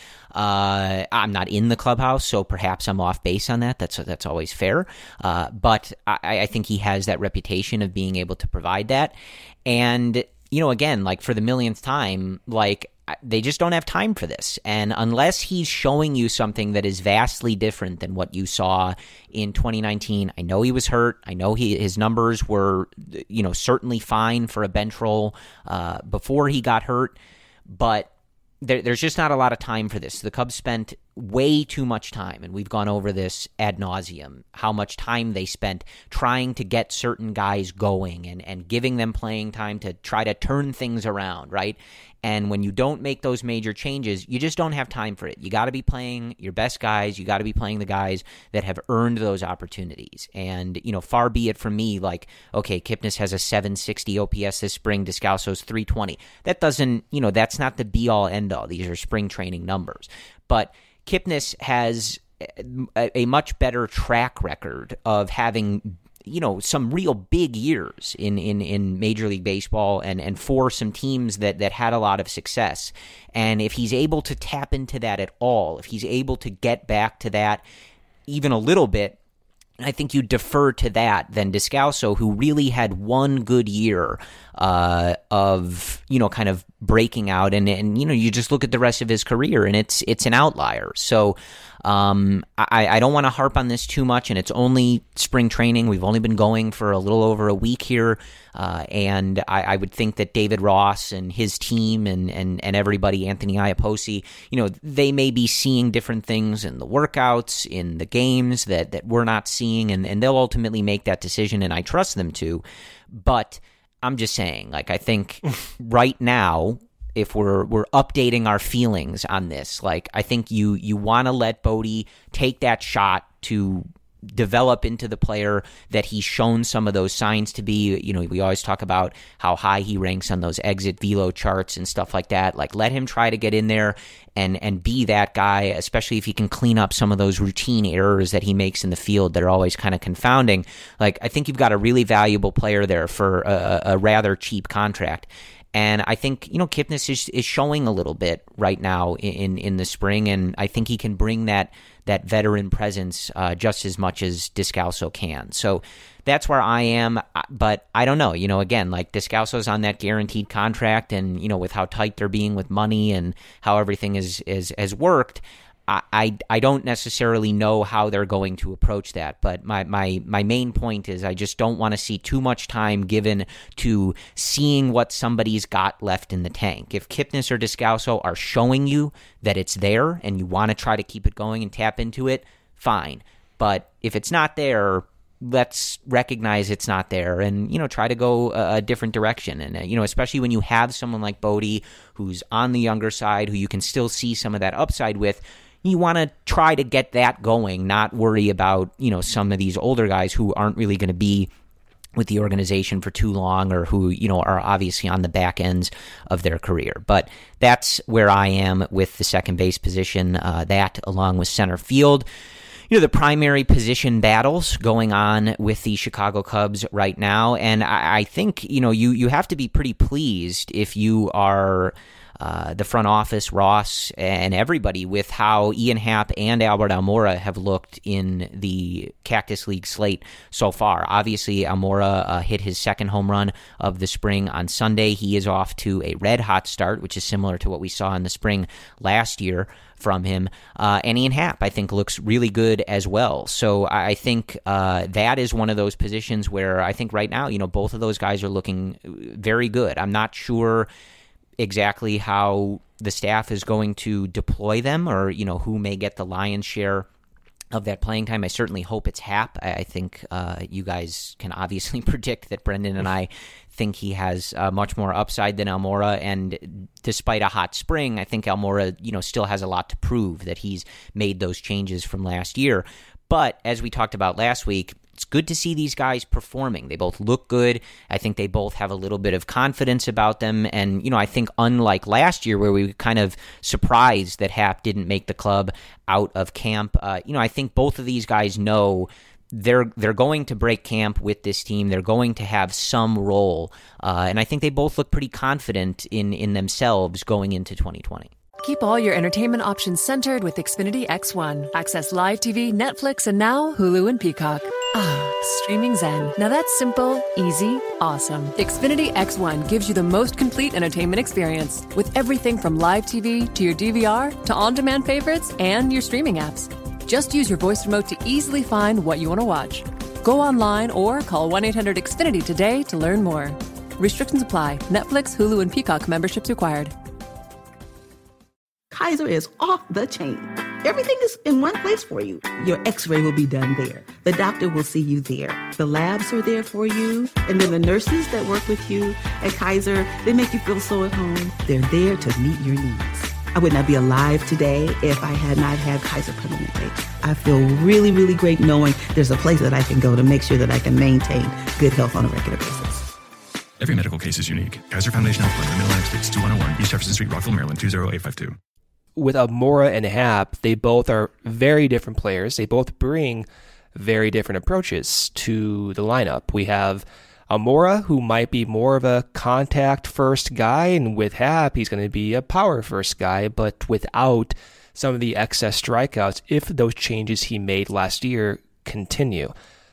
Uh, I'm not in the clubhouse, so perhaps I'm off base on that. That's that's always fair. Uh, but I, I think he has that reputation of being able to provide that. And, you know, again, like for the millionth time, like they just don't have time for this. And unless he's showing you something that is vastly different than what you saw in twenty nineteen, I know he was hurt. I know he, his numbers were, you know, certainly fine for a bench role uh, before he got hurt, but there, there's just not a lot of time for this. The Cubs spent way too much time, and we've gone over this ad nauseum, how much time they spent trying to get certain guys going and, and giving them playing time to try to turn things around, right? And when you don't make those major changes, you just don't have time for it. You got to be playing your best guys. You got to be playing the guys that have earned those opportunities. And, you know, far be it from me, like, okay, Kipnis has a seven sixty O P S this spring, Descalso's three twenty. That doesn't, you know, that's not the be-all, end-all. These are spring training numbers. But Kipnis has a, a much better track record of having, you know, some real big years in, in, in Major League Baseball and, and for some teams that, that had a lot of success. And if he's able to tap into that at all, if he's able to get back to that even a little bit, I think you defer to that than Descalso, who really had one good year uh, of, you know, kind of breaking out. And, and, you know, you just look at the rest of his career and it's it's an outlier. So um, I, I don't want to harp on this too much. And it's only spring training. We've only been going for a little over a week here. Uh, and I, I would think that David Ross and his team and, and, and everybody, Anthony Iapoce, you know, they may be seeing different things in the workouts, in the games that, that we're not seeing, and, and they'll ultimately make that decision, and I trust them to. But I'm just saying, like, I think right now, if we're we're updating our feelings on this, like, I think you you want to let Bodie take that shot to develop into the player that he's shown some of those signs to be. You know, we always talk about how high he ranks on those exit velo charts and stuff like that. Like, let him try to get in there and and be that guy, especially if he can clean up some of those routine errors that he makes in the field that are always kind of confounding. Like, I think you've got a really valuable player there for a, a rather cheap contract. And I think, you know, Kipnis is, is showing a little bit right now in, in the spring, and I think he can bring that that veteran presence uh, just as much as Descalso can. So that's where I am, but I don't know. You know, again, like, Descalso's on that guaranteed contract, and, you know, with how tight they're being with money and how everything is, is has worked, I, I, I don't necessarily know how they're going to approach that, but my, my, my main point is I just don't want to see too much time given to seeing what somebody's got left in the tank. If Kipnis or Descalso are showing you that it's there and you want to try to keep it going and tap into it, fine. But if it's not there, let's recognize it's not there and, you know, try to go a, a different direction. And, uh, you know, especially when you have someone like Bodie who's on the younger side, who you can still see some of that upside with, you want to try to get that going, not worry about, you know, some of these older guys who aren't really going to be with the organization for too long, or who, you know, are obviously on the back ends of their career. But that's where I am with the second base position, uh, that along with center field. You know, the primary position battles going on with the Chicago Cubs right now. And I, I think, you know, you, you have to be pretty pleased if you are Uh, the front office, Ross, and everybody, with how Ian Happ and Albert Almora have looked in the Cactus League slate so far. Obviously, Almora uh, hit his second home run of the spring on Sunday. He is off to a red-hot start, which is similar to what we saw in the spring last year from him. Uh, and Ian Happ, I think, looks really good as well. So I think uh, that is one of those positions where I think right now, you know, both of those guys are looking very good. I'm not sure exactly how the staff is going to deploy them, or, you know, who may get the lion's share of that playing time. I certainly hope it's Happ. I think uh, you guys can obviously predict that Brendan and I think he has uh, much more upside than Almora, and despite a hot spring, I think Almora, you know, still has a lot to prove that he's made those changes from last year. But as we talked about last week, it's good to see these guys performing. They both look good. I think they both have a little bit of confidence about them. And, you know, I think unlike last year where we were kind of surprised that Happ didn't make the club out of camp, uh, you know, I think both of these guys know they're they're going to break camp with this team. They're going to have some role. Uh, and I think they both look pretty confident in, in themselves going into twenty twenty. Keep all your entertainment options centered with Xfinity X one. Access live T V, Netflix, and now Hulu and Peacock. Ah, streaming zen. Now that's simple, easy, awesome. Xfinity X one gives you the most complete entertainment experience with everything from live T V to your D V R to on-demand favorites and your streaming apps. Just use your voice remote to easily find what you want to watch. Go online or call one eight hundred X Finity today to learn more. Restrictions apply. Netflix, Hulu, and Peacock memberships required. Kaiser is off the chain. Everything is in one place for you. Your x-ray will be done there. The doctor will see you there. The labs are there for you. And then the nurses that work with you at Kaiser, they make you feel so at home. They're there to meet your needs. I would not be alive today if I had not had Kaiser Permanente. I feel really, really great knowing there's a place that I can go to make sure that I can maintain good health on a regular basis. Every medical case is unique. Kaiser Foundation Health Plan, Mid-Atlantic States, two one oh one East Jefferson Street, Rockville, Maryland, two zero eight five two. With Almora and Happ, they both are very different players. They both bring very different approaches to the lineup. We have Almora, who might be more of a contact-first guy, and with Happ, he's going to be a power-first guy, but without some of the excess strikeouts if those changes he made last year continue.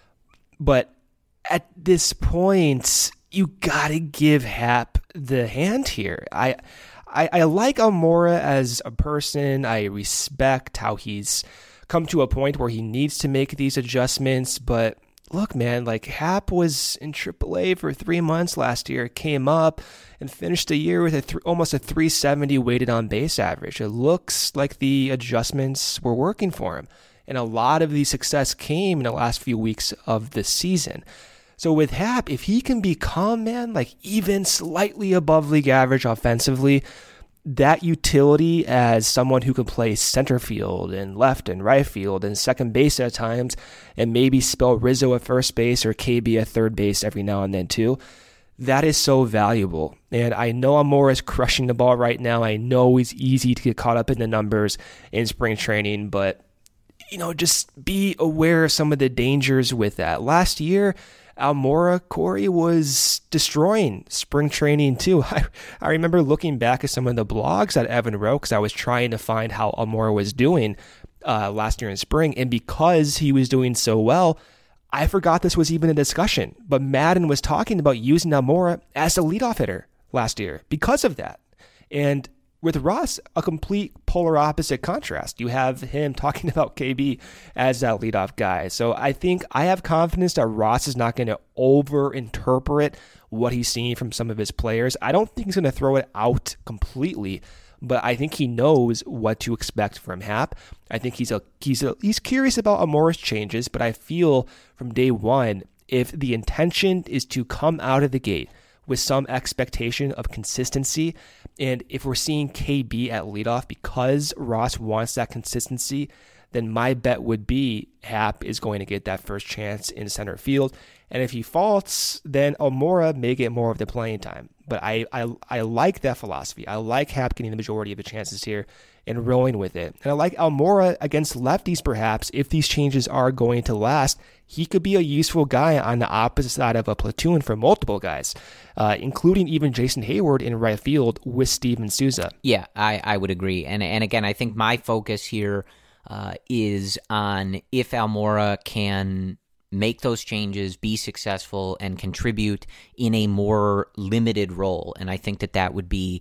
But at this point, you got to give Happ the hand here. I... I, I like Almora as a person. I respect how he's come to a point where he needs to make these adjustments. But look, man, like Happ was in triple A for three months last year, came up and finished the year with a th- almost a three seventy weighted on base average. It looks like the adjustments were working for him. And a lot of the success came in the last few weeks of the season. So with Happ, if he can become, man, like even slightly above league average offensively, that utility as someone who can play center field and left and right field and second base at times, and maybe spell Rizzo at first base or K B at third base every now and then too, that is so valuable. And I know Almora is crushing the ball right now. I know it's easy to get caught up in the numbers in spring training, but you know, just be aware of some of the dangers with that. Last year, Almora, Corey, was destroying spring training too. I, I remember looking back at some of the blogs that Evan wrote because I was trying to find how Almora was doing uh, last year in spring. And because he was doing so well, I forgot this was even a discussion. But Madden was talking about using Almora as a leadoff hitter last year because of that. And with Ross, a complete polar opposite contrast. You have him talking about K B as that leadoff guy. So I think I have confidence that Ross is not going to over-interpret what he's seeing from some of his players. I don't think he's going to throw it out completely, but I think he knows what to expect from Happ. I think he's a, he's a, he's curious about Almora's changes, but I feel from day one, if the intention is to come out of the gate with some expectation of consistency, and if we're seeing K B at leadoff because Ross wants that consistency, then my bet would be Happ is going to get that first chance in center field. And if he faults, then Almora may get more of the playing time. But I, I, I like that philosophy. I like Happ getting the majority of the chances here and rolling with it. And I like Almora against lefties, perhaps, if these changes are going to last. He could be a useful guy on the opposite side of a platoon for multiple guys, uh, including even Jason Hayward in right field with Steven Souza. Yeah, I, I would agree. And and again, I think my focus here uh, is on if Almora can make those changes, be successful, and contribute in a more limited role. And I think that that would be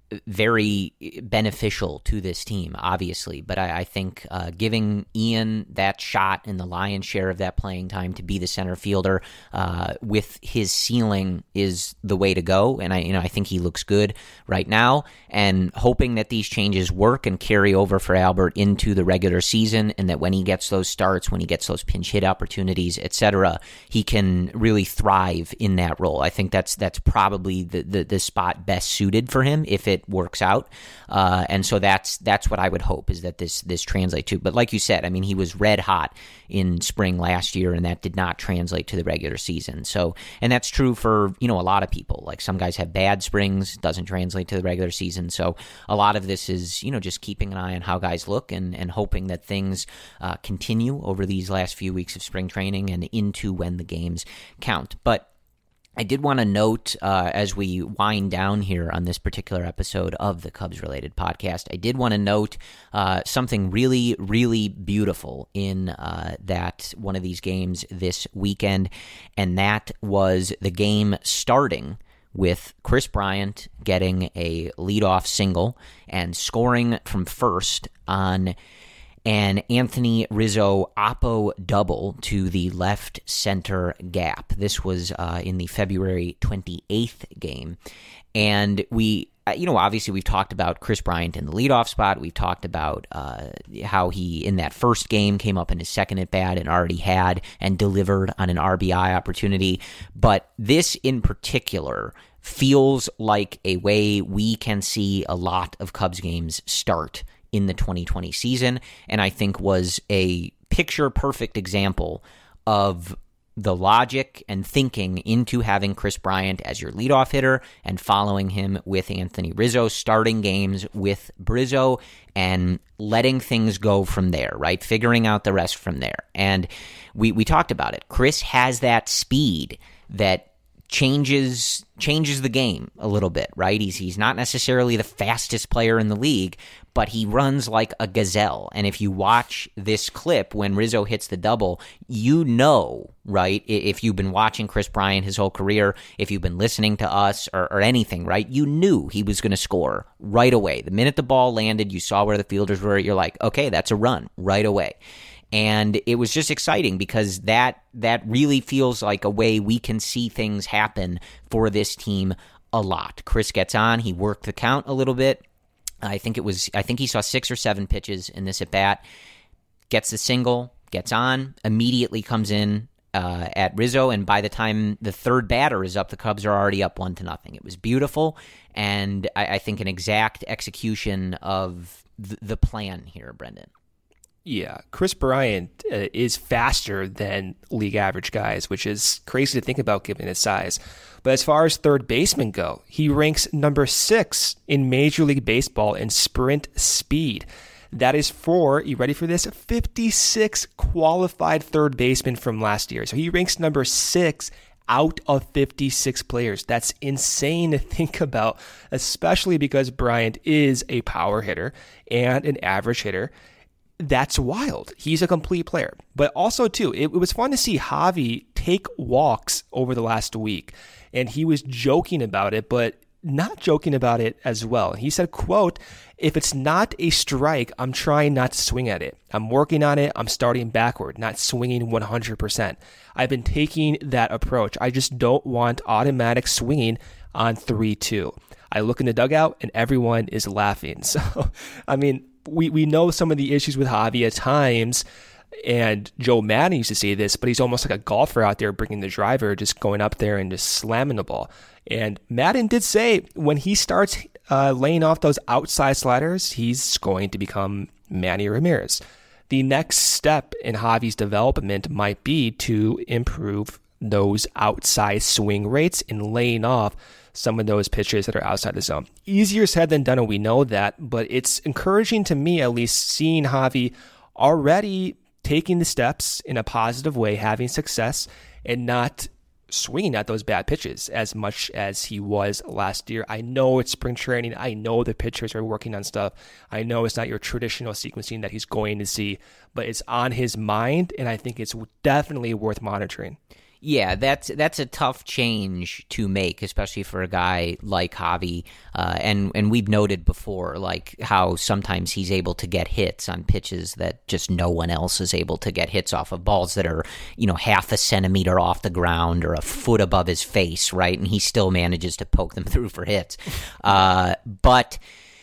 very beneficial to this team, obviously. But I, I think uh, giving Ian that shot and the lion's share of that playing time to be the center fielder uh, with his ceiling is the way to go. And I, you know, I think he looks good right now. And hoping that these changes work and carry over for Albert into the regular season, and that when he gets those starts, when he gets those pinch hit opportunities, et cetera, he can really thrive in that role. I think that's that's probably the the, the spot best suited for him if it works out, uh, and so that's that's what I would hope is that this this translate to. But like you said, I mean, he was red hot in spring last year, and that did not translate to the regular season. So, and that's true for you know a lot of people. Like some guys have bad springs, doesn't translate to the regular season. So a lot of this is you know just keeping an eye on how guys look and and hoping that things uh, continue over these last few weeks of spring training and into when the games count. But I did want to note, uh, as we wind down here on this particular episode of the Cubs-related podcast, I did want to note uh, something really, really beautiful in uh, that one of these games this weekend, and that was the game starting with Kris Bryant getting a leadoff single and scoring from first on an Anthony Rizzo Oppo double to the left center gap. This was uh, in the February twenty-eighth game. And we, you know, obviously we've talked about Kris Bryant in the leadoff spot. We've talked about uh, how he, in that first game, came up in his second at-bat and already had and delivered on an R B I opportunity. But this in particular feels like a way we can see a lot of Cubs games start in the twenty twenty season, and I think was a picture-perfect example of the logic and thinking into having Kris Bryant as your leadoff hitter and following him with Anthony Rizzo, starting games with Brizzo and letting things go from there, right? Figuring out the rest from there. And we, we talked about it. Kris has that speed that changes changes the game a little bit, right? He's he's not necessarily the fastest player in the league, but he runs like a gazelle. And if you watch this clip when Rizzo hits the double, you know, right, if you've been watching Kris Bryant his whole career, if you've been listening to us or, or anything, right, you knew he was going to score right away. The minute the ball landed, you saw where the fielders were, you're like, okay, that's a run right away. And it was just exciting because that that really feels like a way we can see things happen for this team a lot. Kris gets on, he worked the count a little bit. I think it was I think he saw six or seven pitches in this at bat. Gets the single, gets on, immediately comes in uh, at Rizzo, and by the time the third batter is up, the Cubs are already up one to nothing. It was beautiful, and I, I think an exact execution of th- the plan here, Brendan. Yeah, Kris Bryant uh, is faster than league average guys, which is crazy to think about given his size. But as far as third basemen go, he ranks number six in Major League Baseball in sprint speed. That is for, you ready for this, fifty-six qualified third basemen from last year. So he ranks number six out of fifty-six players. That's insane to think about, especially because Bryant is a power hitter and an average hitter. That's wild. He's a complete player. But also, too, it, it was fun to see Javi take walks over the last week. And he was joking about it, but not joking about it as well. He said, quote, "If it's not a strike, I'm trying not to swing at it. I'm working on it. I'm starting backward, not swinging one hundred percent. I've been taking that approach. I just don't want automatic swinging on three two. I look in the dugout and everyone is laughing." So, I mean, we, we know some of the issues with Javi at times, and Joe Maddon used to say this, but he's almost like a golfer out there bringing the driver, just going up there and just slamming the ball. And Maddon did say when he starts uh, laying off those outside sliders, he's going to become Manny Ramirez. The next step in Javi's development might be to improve those outside swing rates and laying off some of those pitches that are outside the zone. Easier said than done, and we know that, but it's encouraging to me, at least, seeing Javi already taking the steps in a positive way, having success, and not swinging at those bad pitches as much as he was last year. I know it's spring training. I know the pitchers are working on stuff. I know it's not your traditional sequencing that he's going to see, but it's on his mind, and I think it's definitely worth monitoring. Yeah, that's that's a tough change to make, especially for a guy like Javi. Uh, and, and we've noted before, like, how sometimes he's able to get hits on pitches that just no one else is able to get hits off of, balls that are, you know, half a centimeter off the ground or a foot above his face, right? And he still manages to poke them through for hits. Uh, but...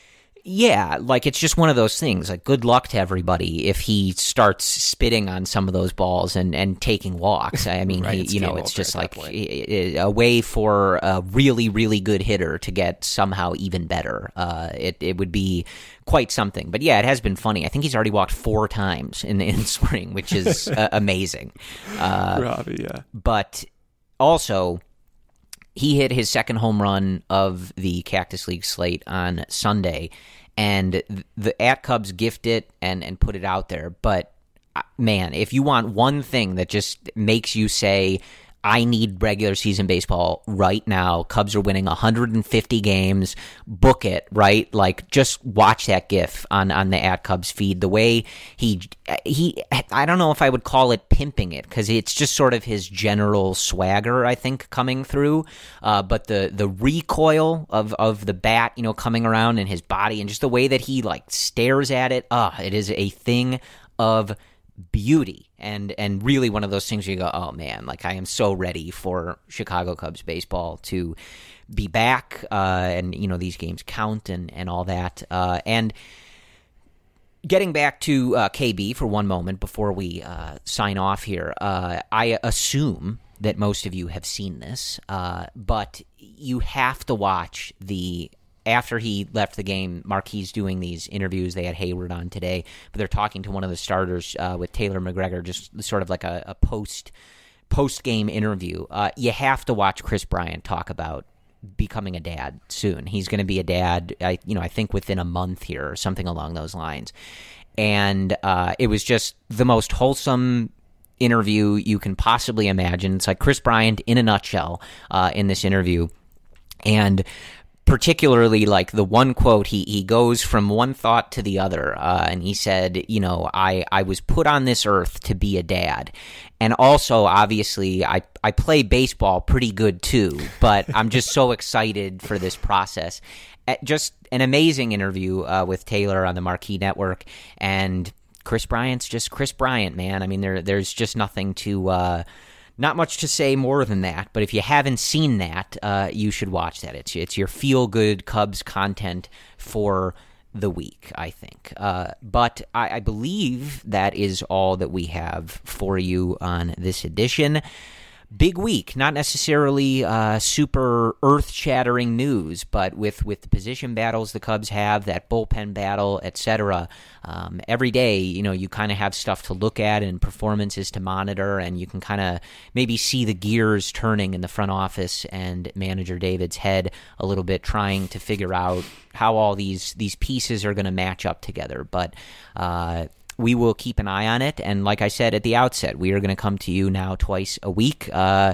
Yeah, like it's just one of those things. Like, good luck to everybody if he starts spitting on some of those balls and, and taking walks. I mean, right, he, you know, it's just like a, a way for a really, really good hitter to get somehow even better. Uh, it it would be quite something. But yeah, it has been funny. I think he's already walked four times in in spring, which is uh, amazing. Uh, Robbie, yeah. But also, he hit his second home run of the Cactus League slate on Sunday, and the at Cubs gift it and, and put it out there. But, man, if you want one thing that just makes you say, I need regular season baseball right now. Cubs are winning one hundred fifty games. Book it, right? Like, just watch that GIF on, on the at Cubs feed. The way he, he, I don't know if I would call it pimping it, because it's just sort of his general swagger, I think, coming through. Uh, but the, the recoil of, of the bat, you know, coming around in his body, and just the way that he, like, stares at it, ah, uh, it is a thing of beauty, and and really one of those things where you go, oh man, like I am so ready for Chicago Cubs baseball to be back, uh, and you know these games count and and all that. Uh, and getting back to uh, K B for one moment before we uh, sign off here, uh, I assume that most of you have seen this, uh, but you have to watch the. After he left the game, Marquis doing these interviews. They had Hayward on today, but they're talking to one of the starters uh, with Taylor McGregor, just sort of like a, a post post game interview. Uh, you have to watch Kris Bryant talk about becoming a dad soon. He's going to be a dad, I, you know, I think within a month here or something along those lines. And uh, it was just the most wholesome interview you can possibly imagine. It's like Kris Bryant in a nutshell uh, in this interview, and particularly like the one quote, he he goes from one thought to the other, uh, and he said, you know, I, I was put on this earth to be a dad. And also, obviously, I, I play baseball pretty good too, but I'm just so excited for this process. At just an amazing interview uh, with Taylor on the Marquee Network, and Kris Bryant's just Kris Bryant, man. I mean, there there's just nothing to... Uh, Not much to say more than that, but if you haven't seen that, uh, you should watch that. It's it's your feel-good Cubs content for the week, I think. Uh, but I, I believe that is all that we have for you on this edition. Big week, not necessarily uh, super earth-shattering news, but with, with the position battles the Cubs have, that bullpen battle, et cetera, um, every day, you know, you kind of have stuff to look at and performances to monitor, and you can kind of maybe see the gears turning in the front office and manager David's head a little bit, trying to figure out how all these, these pieces are going to match up together. But uh we will keep an eye on it, and like I said at the outset, we are going to come to you now twice a week, uh,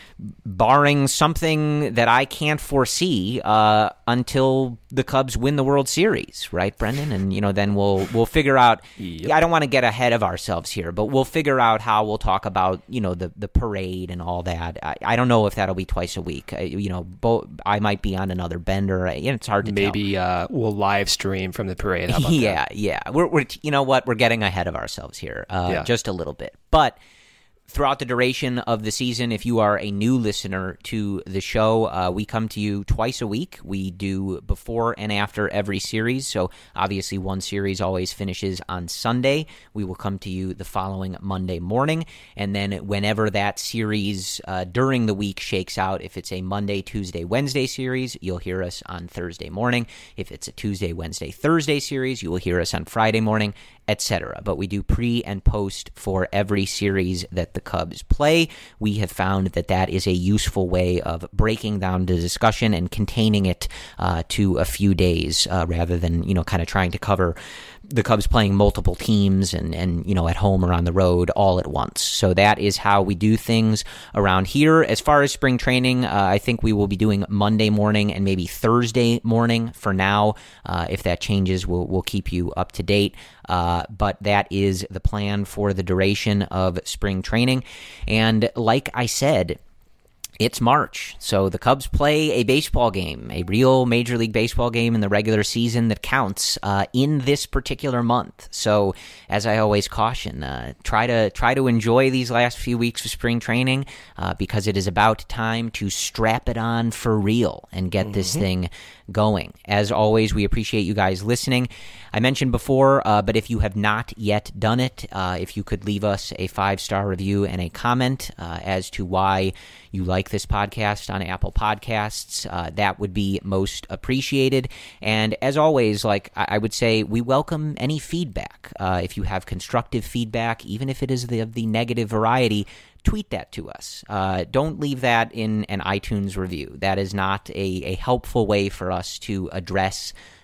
barring something that I can't foresee uh, until the Cubs win the World Series, right, Brendan? And you know, then we'll we'll figure out. Yep. I don't want to get ahead of ourselves here, but we'll figure out how we'll talk about you know the, the parade and all that. I, I don't know if that'll be twice a week. I, you know, bo- I might be on another bender. It's hard to Maybe, tell. Maybe uh, we'll live stream from the parade. How about yeah, that? yeah. We're we're you know what? We're getting ahead of ourselves here, uh, yeah. just a little bit, but. Throughout the duration of the season, if you are a new listener to the show, uh, we come to you twice a week. We do before and after every series, so obviously one series always finishes on Sunday. We will come to you the following Monday morning, and then whenever that series uh, during the week shakes out, if it's a Monday, Tuesday, Wednesday series, you'll hear us on Thursday morning. If it's a Tuesday, Wednesday, Thursday series, you will hear us on Friday morning, et cetera. But we do pre and post for every series that the Cubs play. We have found that that is a useful way of breaking down the discussion and containing it uh, to a few days uh, rather than, you know, kind of trying to cover the Cubs playing multiple teams and, and, you know, at home or on the road all at once. So that is how we do things around here. As far as spring training, uh, I think we will be doing Monday morning and maybe Thursday morning for now. Uh, if that changes, we'll, we'll keep you up to date. Uh, but that is the plan for the duration of spring training. And like I said, it's March, so the Cubs play a baseball game, a real Major League Baseball game in the regular season that counts uh, in this particular month. So, as I always caution, uh, try to try to enjoy these last few weeks of spring training uh, because it is about time to strap it on for real and get mm-hmm. this thing going. As always, we appreciate you guys listening. I mentioned before, uh, but if you have not yet done it, uh, if you could leave us a five-star review and a comment uh, as to why you like this podcast on Apple Podcasts, uh, that would be most appreciated. And as always, like I, I would say, we welcome any feedback. Uh, if you have constructive feedback, even if it is the, of the negative variety, tweet that to us. Uh, don't leave that in an iTunes review. That is not a, a helpful way for us to address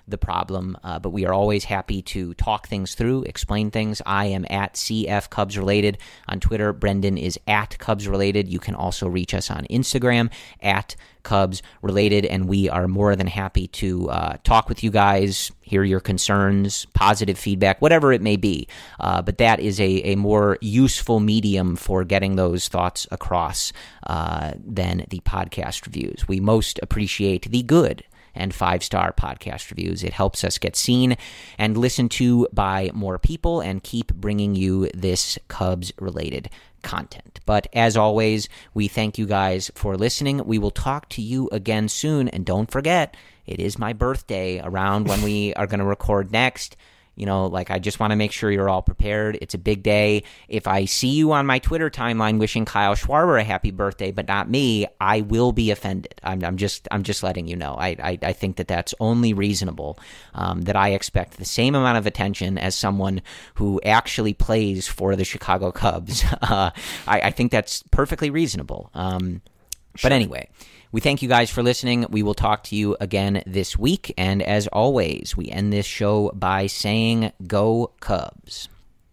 the problem, uh, but we are always happy to talk things through, explain things. I am at C F Cubs Related on Twitter. Brendan is at Cubs Related. You can also reach us on Instagram at Cubs Related, and we are more than happy to uh, talk with you guys, hear your concerns, positive feedback, whatever it may be. Uh, but that is a, a more useful medium for getting those thoughts across uh, than the podcast reviews. We most appreciate the good and five-star podcast reviews. It helps us get seen and listened to by more people and keep bringing you this Cubs-related content. But as always, we thank you guys for listening. We will talk to you again soon. And don't forget, it is my birthday around when we are going to record next. You know, like, I just want to make sure you're all prepared. It's a big day. If I see you on my Twitter timeline wishing Kyle Schwarber a happy birthday, but not me, I will be offended. I'm, I'm just, I'm just letting you know. I, I, I think that that's only reasonable. Um, that I expect the same amount of attention as someone who actually plays for the Chicago Cubs. Uh, I, I think that's perfectly reasonable. Um, sure. But anyway. We thank you guys for listening. We will talk to you again this week. And as always, we end this show by saying, Go Cubs.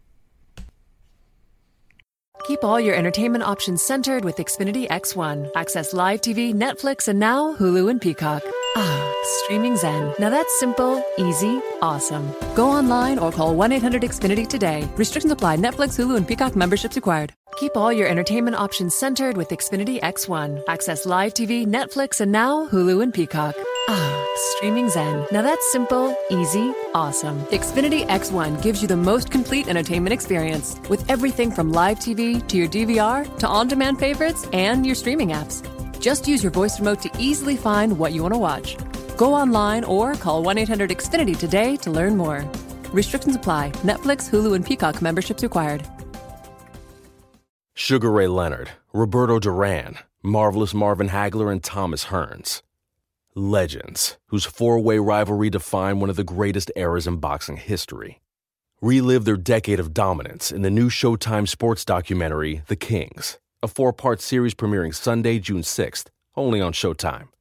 Keep all your entertainment options centered with Xfinity X one. Access live T V, Netflix, and now Hulu and Peacock. Ah, streaming zen. Now that's simple, easy, awesome. Go online or call one eight hundred X Finity today. Restrictions apply. Netflix, Hulu, and Peacock memberships required. Keep all your entertainment options centered with Xfinity X one. Access live T V, Netflix, and now Hulu and Peacock. Ah, streaming zen. Now that's simple, easy, awesome. Xfinity X one gives you the most complete entertainment experience with everything from live T V to your D V R to on-demand favorites and your streaming apps. Just use your voice remote to easily find what you want to watch. Go online or call one eight hundred X Finity today to learn more. Restrictions apply. Netflix, Hulu, and Peacock memberships required. Sugar Ray Leonard, Roberto Duran, Marvelous Marvin Hagler, and Thomas Hearns. Legends, whose four-way rivalry defined one of the greatest eras in boxing history. Relive their decade of dominance in the new Showtime sports documentary, The Kings, a four-part series premiering Sunday, June sixth, only on Showtime.